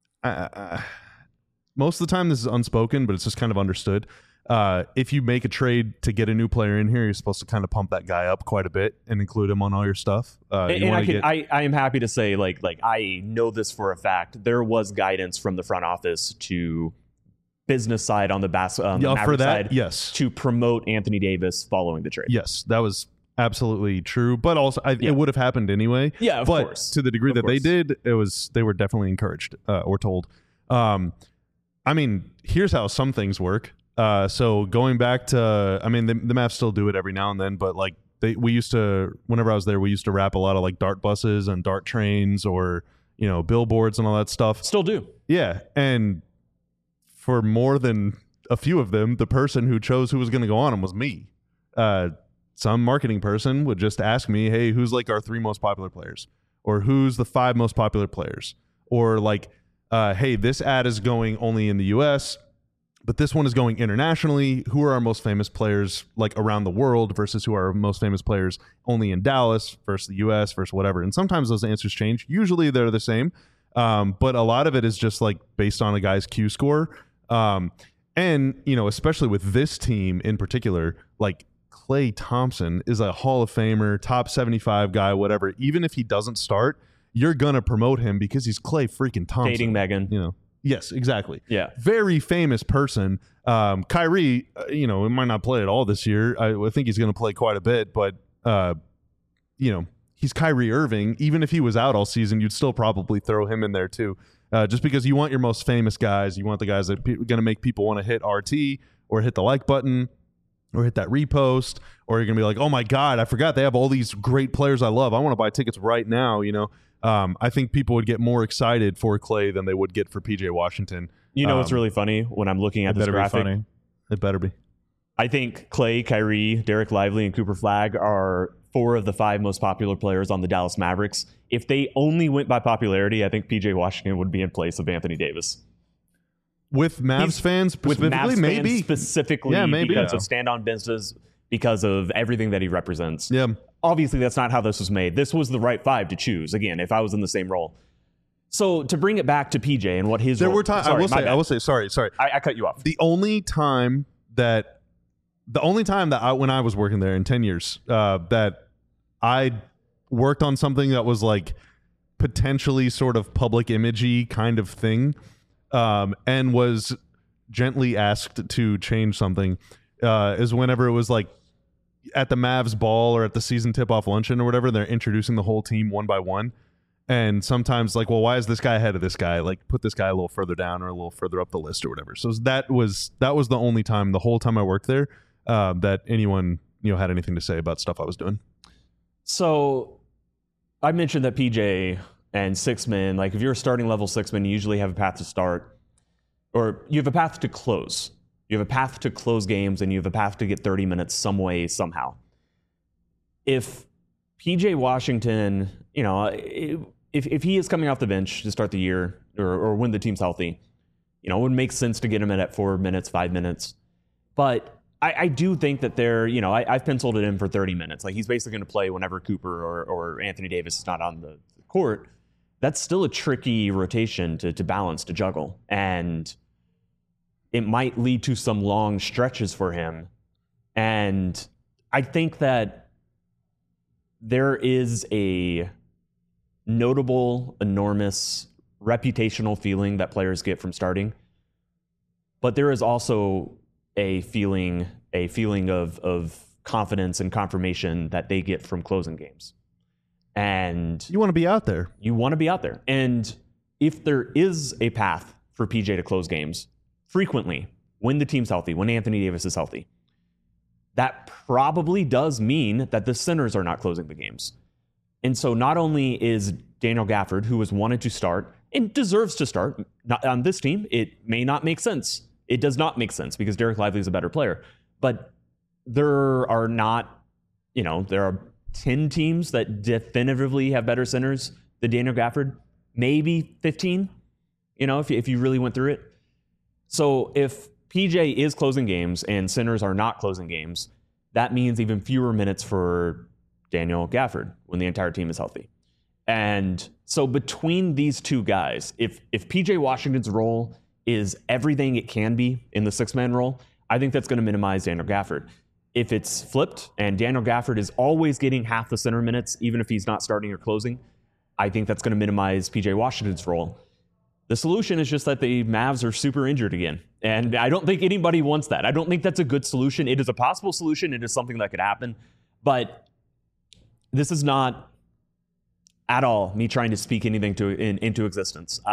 most of the time this is unspoken, but it's just kind of understood. If you make a trade to get a new player in here, you're supposed to kind of pump that guy up quite a bit and include him on all your stuff. I am happy to say, like I know this for a fact. There was guidance from the front office to business side on the Maverick side, yes, to promote Anthony Davis following the trade. Yes, that was absolutely true. But also, it would have happened anyway. Yeah, of course. To the degree that they did, they were definitely encouraged or told. I mean, here's how some things work. So going back to, I mean, the Mavs still do it every now and then, but like we used to, whenever I was there, we used to wrap a lot of like dart buses and dart trains or, billboards and all that stuff. Still do. Yeah. And for more than a few of them, the person who chose who was going to go on them was me. Some marketing person would just ask me, hey, who's like our 3 most popular players? Or who's the 5 most popular players? Or like, hey, this ad is going only in the US, but this one is going internationally. Who are our most famous players like around the world versus who are our most famous players only in Dallas versus the US versus whatever? And sometimes those answers change. Usually they're the same. But a lot of it is just like based on a guy's Q score. And, especially with this team in particular, like Klay Thompson is a Hall of Famer, top 75 guy, whatever. Even if he doesn't start, you're going to promote him because he's Klay freaking Thompson. Dating Megan. Yes, exactly. Yeah. Very famous person. Kyrie, it might not play at all this year. I think he's going to play quite a bit, but, he's Kyrie Irving. Even if he was out all season, you'd still probably throw him in there too. Just because you want your most famous guys. You want the guys that are going to make people want to hit RT or hit the like button or hit that repost, or you're going to be like, oh my God, I forgot they have all these great players I love. I want to buy tickets right now, I think people would get more excited for Klay than they would get for PJ Washington. What's really funny when I'm looking at this graphic? It better be. I think Klay, Kyrie, Derek Lively, and Cooper Flagg are 4 of the 5 most popular players on the Dallas Mavericks. If they only went by popularity, I think PJ Washington would be in place of Anthony Davis. With Mavs fans specifically, maybe. Specifically, because of stand-on business, because of everything that he represents. Yeah. Obviously, that's not how this was made. This was the right 5 to choose, again, if I was in the same role. So to bring it back to PJ and what his role... Were times... I will say, sorry. I cut you off. The only time that when I was working there in 10 years, that I worked on something that was like potentially sort of public imagey kind of thing, and was gently asked to change something, is whenever it was like at the Mavs ball or at the season tip-off luncheon or whatever, they're introducing the whole team one by one. And sometimes like, well, why is this guy ahead of this guy? Like put this guy a little further down or a little further up the list or whatever. So that was the only time the whole time I worked there that anyone had anything to say about stuff I was doing. So I mentioned that PJ and 6-man, like if you're a starting level 6-man, you usually have a path to start, or you have a path to close. You have a path to close games, and you have a path to get 30 minutes some way, somehow. If PJ Washington, if he is coming off the bench to start the year or when the team's healthy, it would make sense to get him in at 4 minutes, 5 minutes. But I do think that I've penciled it in for 30 minutes. Like he's basically going to play whenever Cooper or Anthony Davis is not on the court. That's still a tricky rotation to balance, to juggle. And it might lead to some long stretches for him. And I think that there is a notable, enormous reputational feeling that players get from starting. But there is also a feeling of confidence and confirmation that they get from closing games. And you want to be out there. And if there is a path for PJ to close games frequently, when the team's healthy, when Anthony Davis is healthy, that probably does mean that the centers are not closing the games. And so not only is Daniel Gafford, who has wanted to start and deserves to start not on this team, it may not make sense. It does not make sense because Derek Lively is a better player. But there are not, there are 10 teams that definitively have better centers than Daniel Gafford. Maybe 15, if you really went through it. So if PJ is closing games and centers are not closing games, that means even fewer minutes for Daniel Gafford when the entire team is healthy. And so between these two guys, if PJ Washington's role is everything it can be in the six-man role, I think that's going to minimize Daniel Gafford. If it's flipped and Daniel Gafford is always getting half the center minutes, even if he's not starting or closing, I think that's going to minimize PJ Washington's role. The solution is just that the Mavs are super injured again. And I don't think anybody wants that. I don't think that's a good solution. It is a possible solution. It is something that could happen. But this is not at all me trying to speak anything into existence.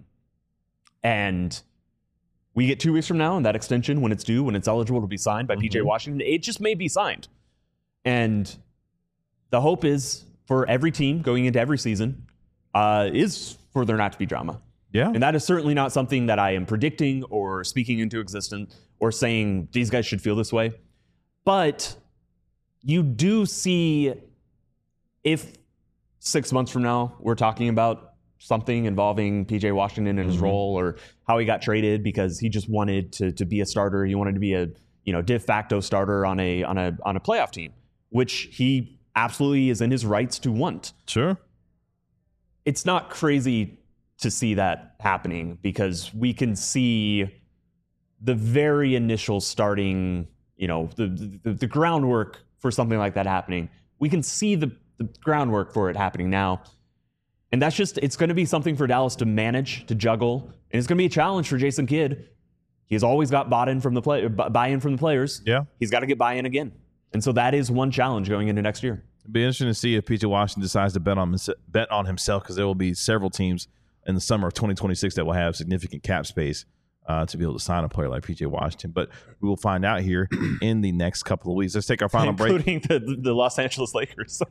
And we get 2 weeks from now, and that extension, when it's due, when it's eligible to be signed by PJ Washington, it just may be signed. And the hope is for every team going into every season is for there not to be drama. Yeah. And that is certainly not something that I am predicting or speaking into existence or saying these guys should feel this way. But you do see, if 6 months from now we're talking about something involving PJ Washington and his role, or how he got traded because he just wanted to be a starter, he wanted to be a de facto starter on a playoff team, which he absolutely is in his rights to want. Sure. It's not crazy to see that happening, because we can see the very initial starting, the groundwork for something like that happening. We can see the groundwork for it happening now. And that's just, it's going to be something for Dallas to manage, to juggle. And it's going to be a challenge for Jason Kidd. He's always got buy-in from the players. Yeah. He's got to get buy-in again. And so that is one challenge going into next year. It'd be interesting to see if PJ Washington decides to bet on himself, because there will be several teams in the summer of 2026 that will have significant cap space to be able to sign a player like PJ Washington. But we will find out here in the next couple of weeks. Let's take our final break. Including the Los Angeles Lakers.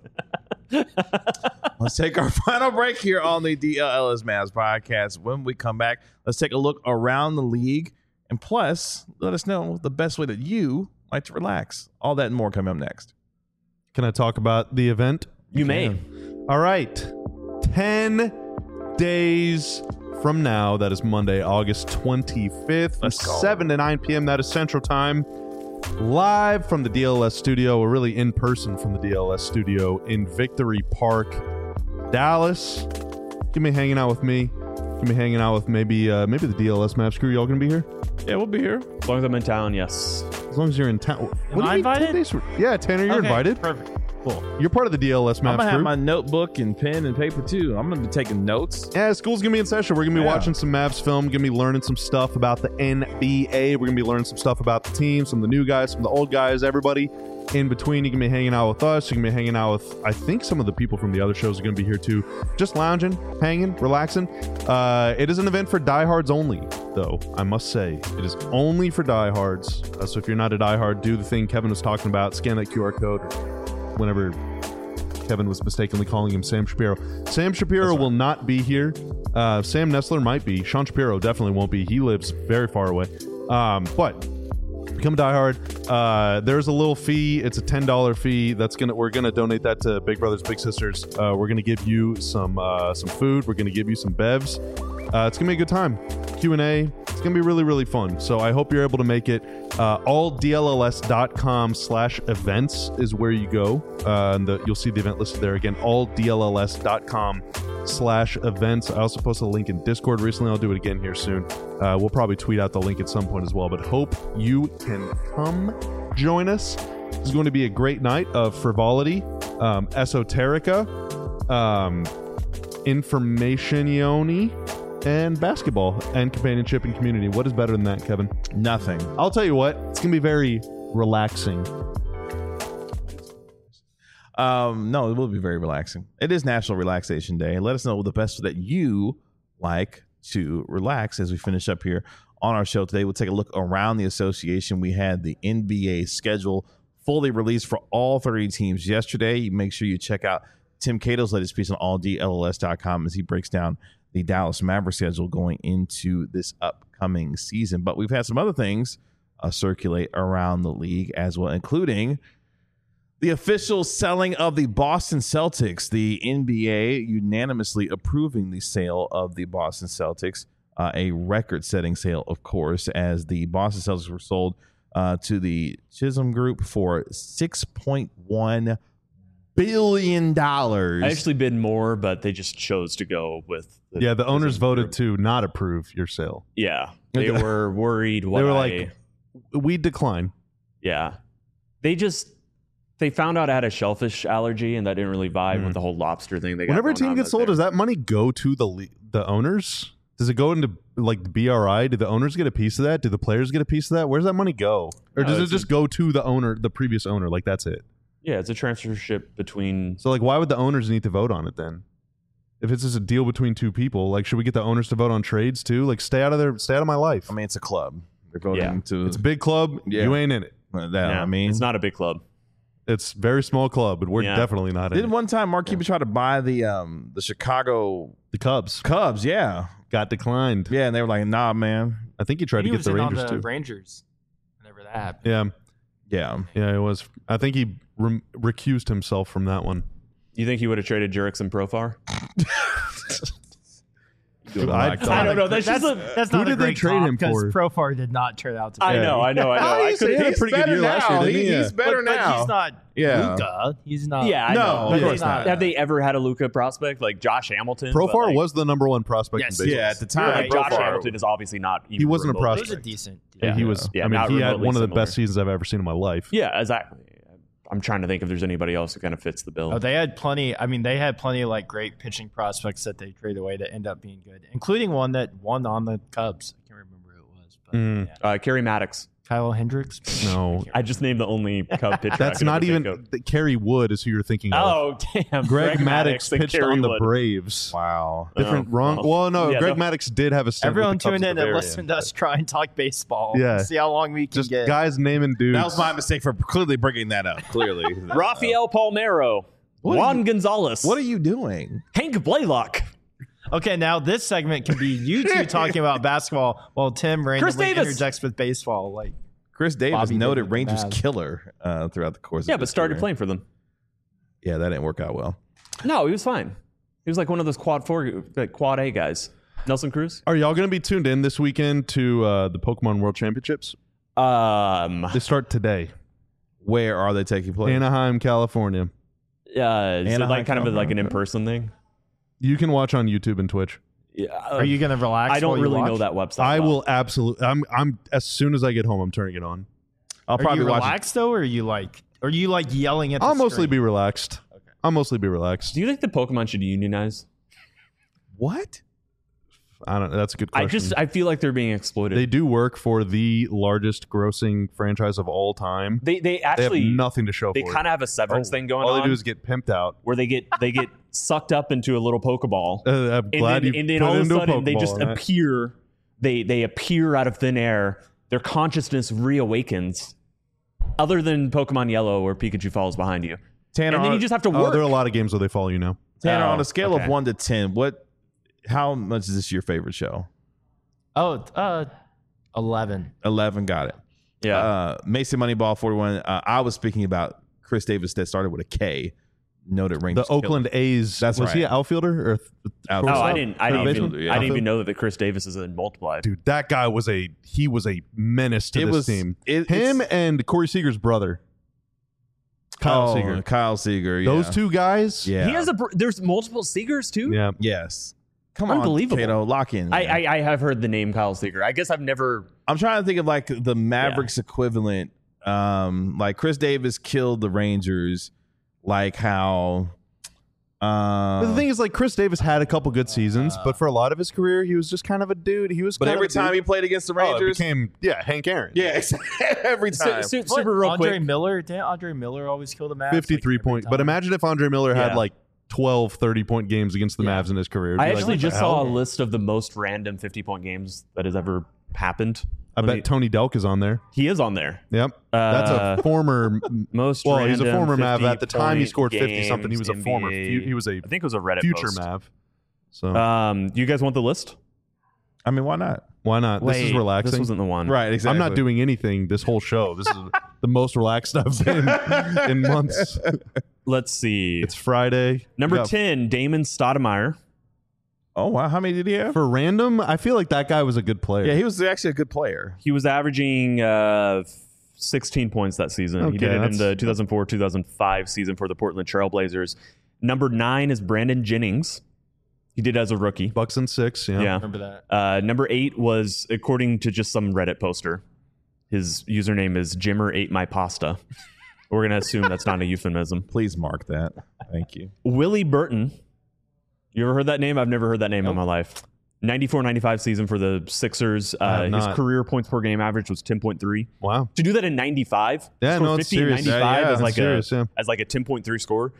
Let's take our final break here on the DLLS Mavs podcast. When we come back, let's take a look around the league, and plus let us know the best way that you like to relax. All that and more coming up next. Can I talk about the event? You may. All right. 10 days from now, that is Monday, August 25th, from 7 to 9 p.m. That is Central Time. Live from the DLS studio, or really in person from the DLS studio in Victory Park, Dallas. Give me hanging out with me. Give me hanging out with maybe the DLS Mavs crew. Y'all gonna be here? Yeah, we'll be here. As long as I'm in town, yes. As long as you're in town. Am I invited? Yeah, Tanner, you're invited. Perfect. Cool. You're part of the DLS Mavs I'm gonna have crew. my notebook and pen and paper too. I'm gonna be taking notes. Yeah, school's gonna be in session. We're gonna be watching some Mavs film. Gonna be learning some stuff about the NBA. We're gonna be learning some stuff about the team, some of the new guys, some of the old guys, everybody in between. You can be hanging out with us. You can be hanging out with, I think, some of the people from the other shows are gonna be here too. Just lounging, hanging, relaxing. It is an event for diehards only, though. I must say, it is only for diehards. So if you're not a diehard, do the thing Kevin was talking about. Scan that QR code. Whenever Kevin was mistakenly calling him Sam Shapiro. Sam Shapiro will not be here. Sam Nessler might be. Sean Shapiro definitely won't be. He lives very far away. But become a diehard. There's a little fee. It's a $10 fee. We're gonna donate that to Big Brothers Big Sisters. We're gonna give you some food. We're gonna give you some bevs. It's gonna be a good time. Q&A. It's gonna be really, really fun. So I hope you're able to make it. alldlls.com/events is where you go. And you'll see the event listed there again. alldlls.com/events. I also posted a link in Discord recently. I'll do it again here soon. We'll probably tweet out the link at some point as well. But hope you can come join us. This is going to be a great night of frivolity, esoterica, informationioni, and basketball and companionship and community. What is better than that, Kevin? Nothing. I'll tell you what, it's gonna be very relaxing. No, it will be very relaxing. It is National Relaxation Day. Let us know the best that you like to relax as we finish up here on our show today. We'll take a look around the association. We had the NBA schedule fully released for all 30 teams yesterday. Make sure you check out Tim Cato's latest piece on alldlls.com as he breaks down the Dallas Mavericks schedule going into this upcoming season. But we've had some other things circulate around the league as well, including the official selling of the Boston Celtics. The NBA unanimously approving the sale of the Boston Celtics, a record-setting sale, of course, as the Boston Celtics were sold to the Chisholm Group for $6.1 billion. I actually bid more, but they just chose to go with. The owners voted to not approve your sale. Yeah, they were worried. They were like, we decline. Yeah, they found out I had a shellfish allergy, and that didn't really vibe with the whole lobster thing. Whenever a team gets sold, does that money go to the owners? Does it go into like the BRI? Do the owners get a piece of that? Do the players get a piece of that? Where does that money go? Or does it just go to the owner, the previous owner? Like that's it. Yeah, it's a transfership between. So like, why would the owners need to vote on it then? If it's just a deal between two people, like, should we get the owners to vote on trades too? Like, stay out of my life. I mean, it's a club. They're voting to. It's a big club. Yeah. You ain't in it. I mean, it's not a big club. It's a very small club, but we're definitely not in it. Didn't one time Mark Cuban try to buy the Chicago Cubs? Cubs, yeah, got declined. Yeah, and they were like, "Nah, man." I think he tried to get the Rangers too. Rangers, whenever that happened. Yeah, it was. I think he recused himself from that one. You think he would have traded Jurickson Profar? I don't know. That's not who a did they trade him for? Because Profar did not turn out to be. I know. I could have had a pretty good year last year, didn't he? He's better but now. He's not Luka. He's not. Yeah, I know. of course not. Have they ever had a Luka prospect like Josh Hamilton? Profar was the number one prospect Yes. in baseball. Yeah, at the time, Right. Josh Hamilton is obviously not. Even He wasn't a remotely- prospect. He was a decent. Yeah, he was. Yeah, I mean, not he had remotely one of the similar. best seasons I've ever seen in my life. Yeah, exactly. I'm trying to think if there's anybody else who kind of fits the bill. Oh, they had plenty. I mean, they had plenty of like great pitching prospects that they traded away that end up being good, including one that won on the Cubs. I can't remember who it was, but Kerry Maddox. Kyle Hendricks. No, I just named the only Cub pitcher. that's not even. Kerry Wood is who you're thinking of. Oh, damn. Greg Maddux and pitched Kerry on the Wood. Braves. Wow. Different, wrong. Well, no, Greg Maddux did have a stint. Everyone with the Cubs tune at in the and very listen end. to us try and talk baseball. Yeah. See how long we can Just get. guys naming dudes. That was my mistake for clearly bringing that up. Clearly, Rafael Palmeiro. Juan Gonzalez. What are you doing? Hank Blaylock. Okay, now this segment can be you two talking about basketball while Tim randomly Davis. interjects with baseball. Like Chris Davis, Bobby noted did with the Rangers Mavs. killer throughout the course. Yeah, of but his started career. playing for them. Yeah, that didn't work out well. No, he was fine. He was like one of those quad A guys. Nelson Cruz. Are y'all going to be tuned in this weekend to the Pokemon World Championships? They start today. Where are they taking place? Anaheim, California. Is it Anaheim, like kind of like an California. in-person thing? You can watch on YouTube and Twitch. Yeah. are you gonna relax? I don't while you really watch? know that website. I well. will absolutely. I'm as soon as I get home, I'm turning it on. I'll Are probably you watch it. relaxed though, or are you like yelling at? I'll the mostly screen? be relaxed. I'll mostly be relaxed. Do you think the Pokemon should unionize? What? I don't. That's a good question. I feel like they're being exploited. They do work for the largest grossing franchise of all time. They They actually have nothing to show they for it. kind of have a severance thing going All on. they do is get pimped out. where they get sucked up into a little Pokeball. I'm glad and you then put all of a into sudden they Pokeball just on that. appear. They appear out of thin air. Their consciousness reawakens. Other than Pokemon Yellow, where Pikachu falls behind you, Tanner, and then you just have to Oh, work. there are a lot of games where they follow you now. Tanner, on Oh, a scale okay. of 1 to 10, how much is this your favorite show? Oh, 11. 11, got it. yeah, Mason Moneyball 41. I was speaking about Chris Davis that started with a K. Noted Rangers. The Oakland A's. That's was he right. an outfielder or Outfielder. no, Oh, I didn't. I third didn't baseman? even. Yeah. I didn't even know that Chris Davis is in Multiplied. Dude, that guy was a menace to It this was- team. it- Him it's- and Corey Seager's brother, Kyle Seager. Kyle Seager. Yeah. Those two guys. Yeah. He has there's multiple Seegers too. Yeah. Yes. Come Unbelievable. on, Kato, lock in. man. I have heard the name Kyle Seager. I guess I've never. I'm trying to think of like the Mavericks equivalent. Like Chris Davis killed the Rangers, like how. But the thing is, like, Chris Davis had a couple good seasons, but for a lot of his career, he was just kind of a dude. He was. but kind every of a dude. time he played against the Oh, it Rangers, became Hank Aaron. yeah, every time. Super real Andre quick. Miller. Didn't Andre Miller always kill the Mavs? 53 like, every point. But time? imagine if Andre Miller had Yeah. like 12 30-point games against the Yeah. Mavs in his career. It'd be I like, actually what just the saw a hell? list of the most random 50-point games that has ever happened. I bet Tony Delk is on there. He is on there. Yep. That's a former. Most Well, he's a random former Mav. At the time, he 50-point scored 50 something. He was a games, former. NBA. He was a I think it was a Reddit future post. Mav. So You guys want the list? I mean, why not? why not? This is Wait, relaxing. This wasn't the one. Right, exactly. I'm not doing anything this whole show. This is the most relaxed I've been in months. Let's see. It's Friday. Number We got- 10, Damon Stoudemire. Oh wow, how many did he have? For random, I feel like that guy was a good player. Yeah, he was actually a good player. He was averaging 16 points that season. Okay, He did it in that's- the 2004-2005 season for the Portland Trailblazers. Number 9 is Brandon Jennings. He did as a rookie. Bucks and 6. Yeah. Yeah. Remember that? Number 8 was, according to just some Reddit poster, his username is Jimmer ate my pasta. We're going to assume that's not a euphemism. Please mark that. Thank you. Willie Burton. You ever heard that name? I've never heard that name in my life. 94-95 season for the Sixers. have His not. career points per game average was 10.3. Wow. To do that in 95, Yeah, score no, it's 50 in serious. 95 Yeah, as like serious, yeah. as like a 10.3 score.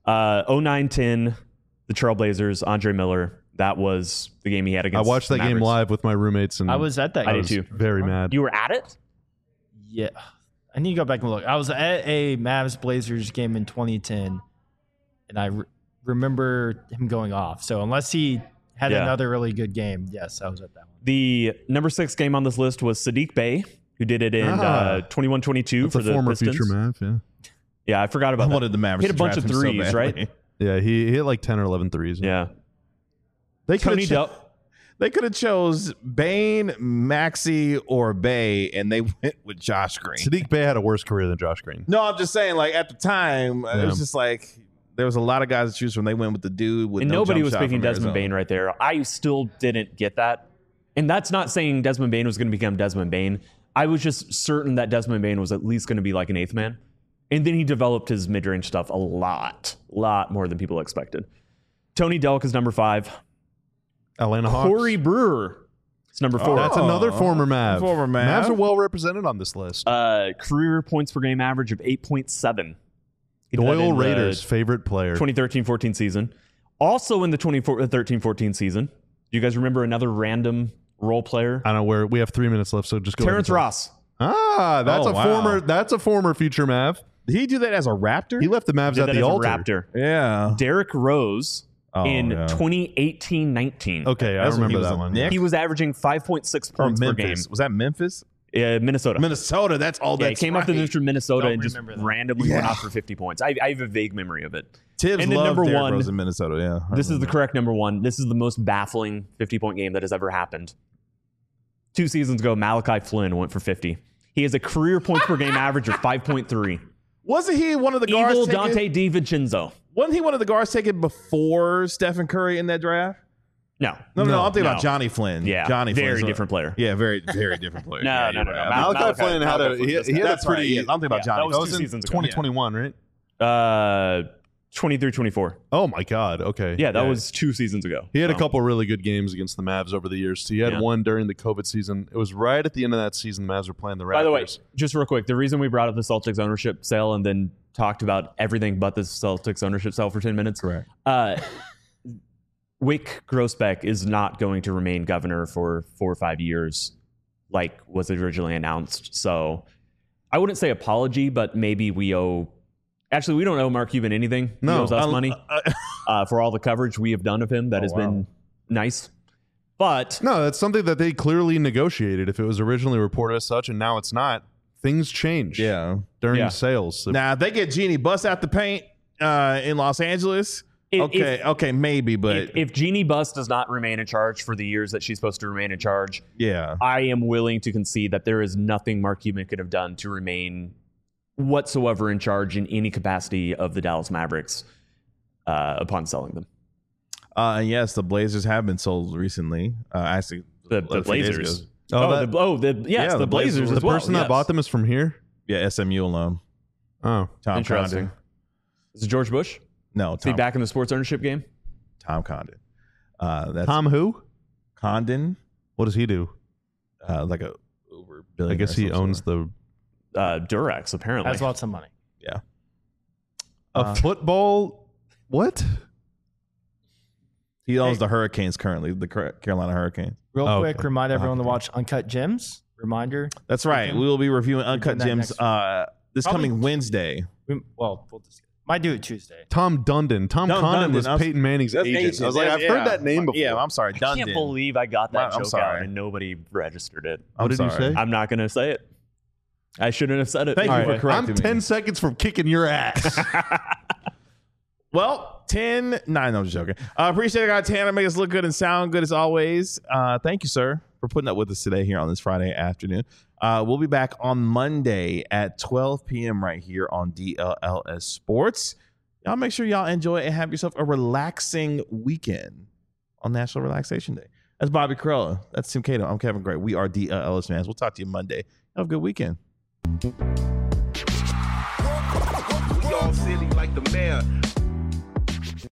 09-10, the Trailblazers, Andre Miller. That was the game he had I against watched that the game Mavericks. live with my roommates, and I was at that. I game. did too. very mad. You were at it? Yeah. I need to go back and look. I was at a Mavs Blazers game in 2010, and I remember him going off. So unless he had Yeah. another really good game, yes, I was at that one. The number 6 game on this list was Sadiq Bey, who did it in 21-22 That's for a the former Pistons. future Mav. Yeah. Yeah, I forgot I about that. wanted the Mavericks Hit a to bunch draft of him so threes, badly. right? Yeah, he hit like 10 or 11 threes. Yeah. They Tony could have they could have chose Bane, Maxey, or Bay, and they went with Josh Green. Sadiq Bey had a worse career than Josh Green. No, I'm just saying, like at the time, it Yeah. was just like there was a lot of guys to choose from. They went with the dude with And no nobody jump was shot picking from Desmond Arizona. Bane right there. I still didn't get that. And that's not saying Desmond Bane was going to become Desmond Bane. I was just certain that Desmond Bane was at least going to be like an 8th man. And then he developed his mid-range stuff a lot more than people expected. Tony Delk is number 5. Atlanta Hawks. Corey Brewer is number 4. That's another former Mav. Former Mav. Mavs are well represented on this list. Career points per game average of 8.7. He did that Doyle in the Raiders' favorite player. 2013-14 season. Also in the 2013-14 season. Do you guys remember another random role player? I don't know where we have 3 minutes left, so just go. Terrence ahead and Ross. Ah, that's Oh, a wow. former. That's a former future Mav. Did he do that as a Raptor? He left the Mavs Did at that the as a altar. Raptor. yeah. Derrick Rose Oh, in yeah. 2018-19. Okay, I That's when he remember was that a one. Knick? He was averaging 5.6 Or points per game. Memphis. Was that Memphis? Minnesota. Minnesota. That's all Yeah, he that's came off the bench from Minnesota Don't and just remember that. randomly went Yeah. off for 50 points. I have a vague memory of it. Tibbs And then loved number Derrick 1, Rose in Minnesota. Yeah. I This is the remember. correct number 1. This is the most baffling 50-point game that has ever happened. 2 seasons ago, Malachi Flynn went for 50. He has a career points per game average of 5.3. Wasn't he one of the guards? Evil taken- Dante DiVincenzo. Wasn't he one of the guards taken before Stephen Curry in that draft? No. No. I'm thinking No. about Johnny Flynn. Yeah. Johnny very Flynn. different player. Yeah, very different player. No, Yeah, no, you're no, right. no. Malachi Flynn had a he had a That's right. pretty. Yeah, I'm thinking about Johnny. that was That was 2 in seasons ago. 2021, right? 23-24. Oh my God. Okay. Yeah, that was 2 seasons ago. He had a So, couple really good games against the Mavs over the years. He had Yeah. one during the COVID season. It was right at the end of that season. The Mavs were playing the Raptors. By the way, just real quick, the reason we brought up the Celtics ownership sale and then talked about everything but the Celtics ownership sale for 10 minutes. Correct. Wick Grossbeck is not going to remain governor for 4 or 5 years like was originally announced. So I wouldn't say apology, but maybe we owe... Actually, we don't owe Mark Cuban anything. No. He owes us money for all the coverage we have done of him. That has been nice. But No, that's something that they clearly negotiated. If it was originally reported as such, and now it's not, things change. Yeah. During Yeah. sales. So Now, if they get Jeannie Buss out the paint in Los Angeles, If- okay, maybe, but if Jeannie Buss does not remain in charge for the years that she's supposed to remain in charge, yeah. I am willing to concede that there is nothing Mark Cuban could have done to remain whatsoever in charge in any capacity of the Dallas Mavericks upon selling them. And yes, the Blazers have been sold recently. Actually, The a few days Blazers. ago. that- The Blazers was as the well. person that yes. bought them is from here? Yeah, SMU alum. Oh. Tom Interesting. Condon. Is it George Bush? No, Is he Tom, back in the sports ownership game? Tom Condon. That's Tom who? Condon, What does he do? like a Uber I billionaire. guess he of some owns sort. the Durex, apparently. Has lots of money. a football. What? He owns the Hurricanes currently, the Carolina Hurricanes. Real Oh, quick, okay. remind everyone to Okay. watch Uncut Gems. Reminder. That's right. We will be reviewing Uncut that Gems this Probably- coming Wednesday. We'll discuss. Might do it Tuesday. Tom Dundon. Tom Tom Condon Dundon. was I was- Peyton Manning's That's agent. agent. I was like, I've Yeah. heard that name before. Yeah, I'm sorry, I Dundon. can't believe I got that I'm joke sorry. out and nobody registered it. What did you say? I'm not going to say it. I shouldn't have said it. Thank you All for right. correcting I'm me. 10 seconds from kicking your ass. Well, 10-9. No, I'm just joking. Appreciate it, guys. Tanner, make us look good and sound good as always. Thank you, sir, for putting up with us today here on this Friday afternoon. We'll be back on Monday at 12 p.m. right here on DLS Sports. Y'all make sure y'all enjoy it and have yourself a relaxing weekend on National Relaxation Day. That's Bobby Karalla. That's Tim Cato. I'm Kevin Gray. We are DLS fans. We'll talk to you Monday. Have a good weekend. We all silly like the mayor.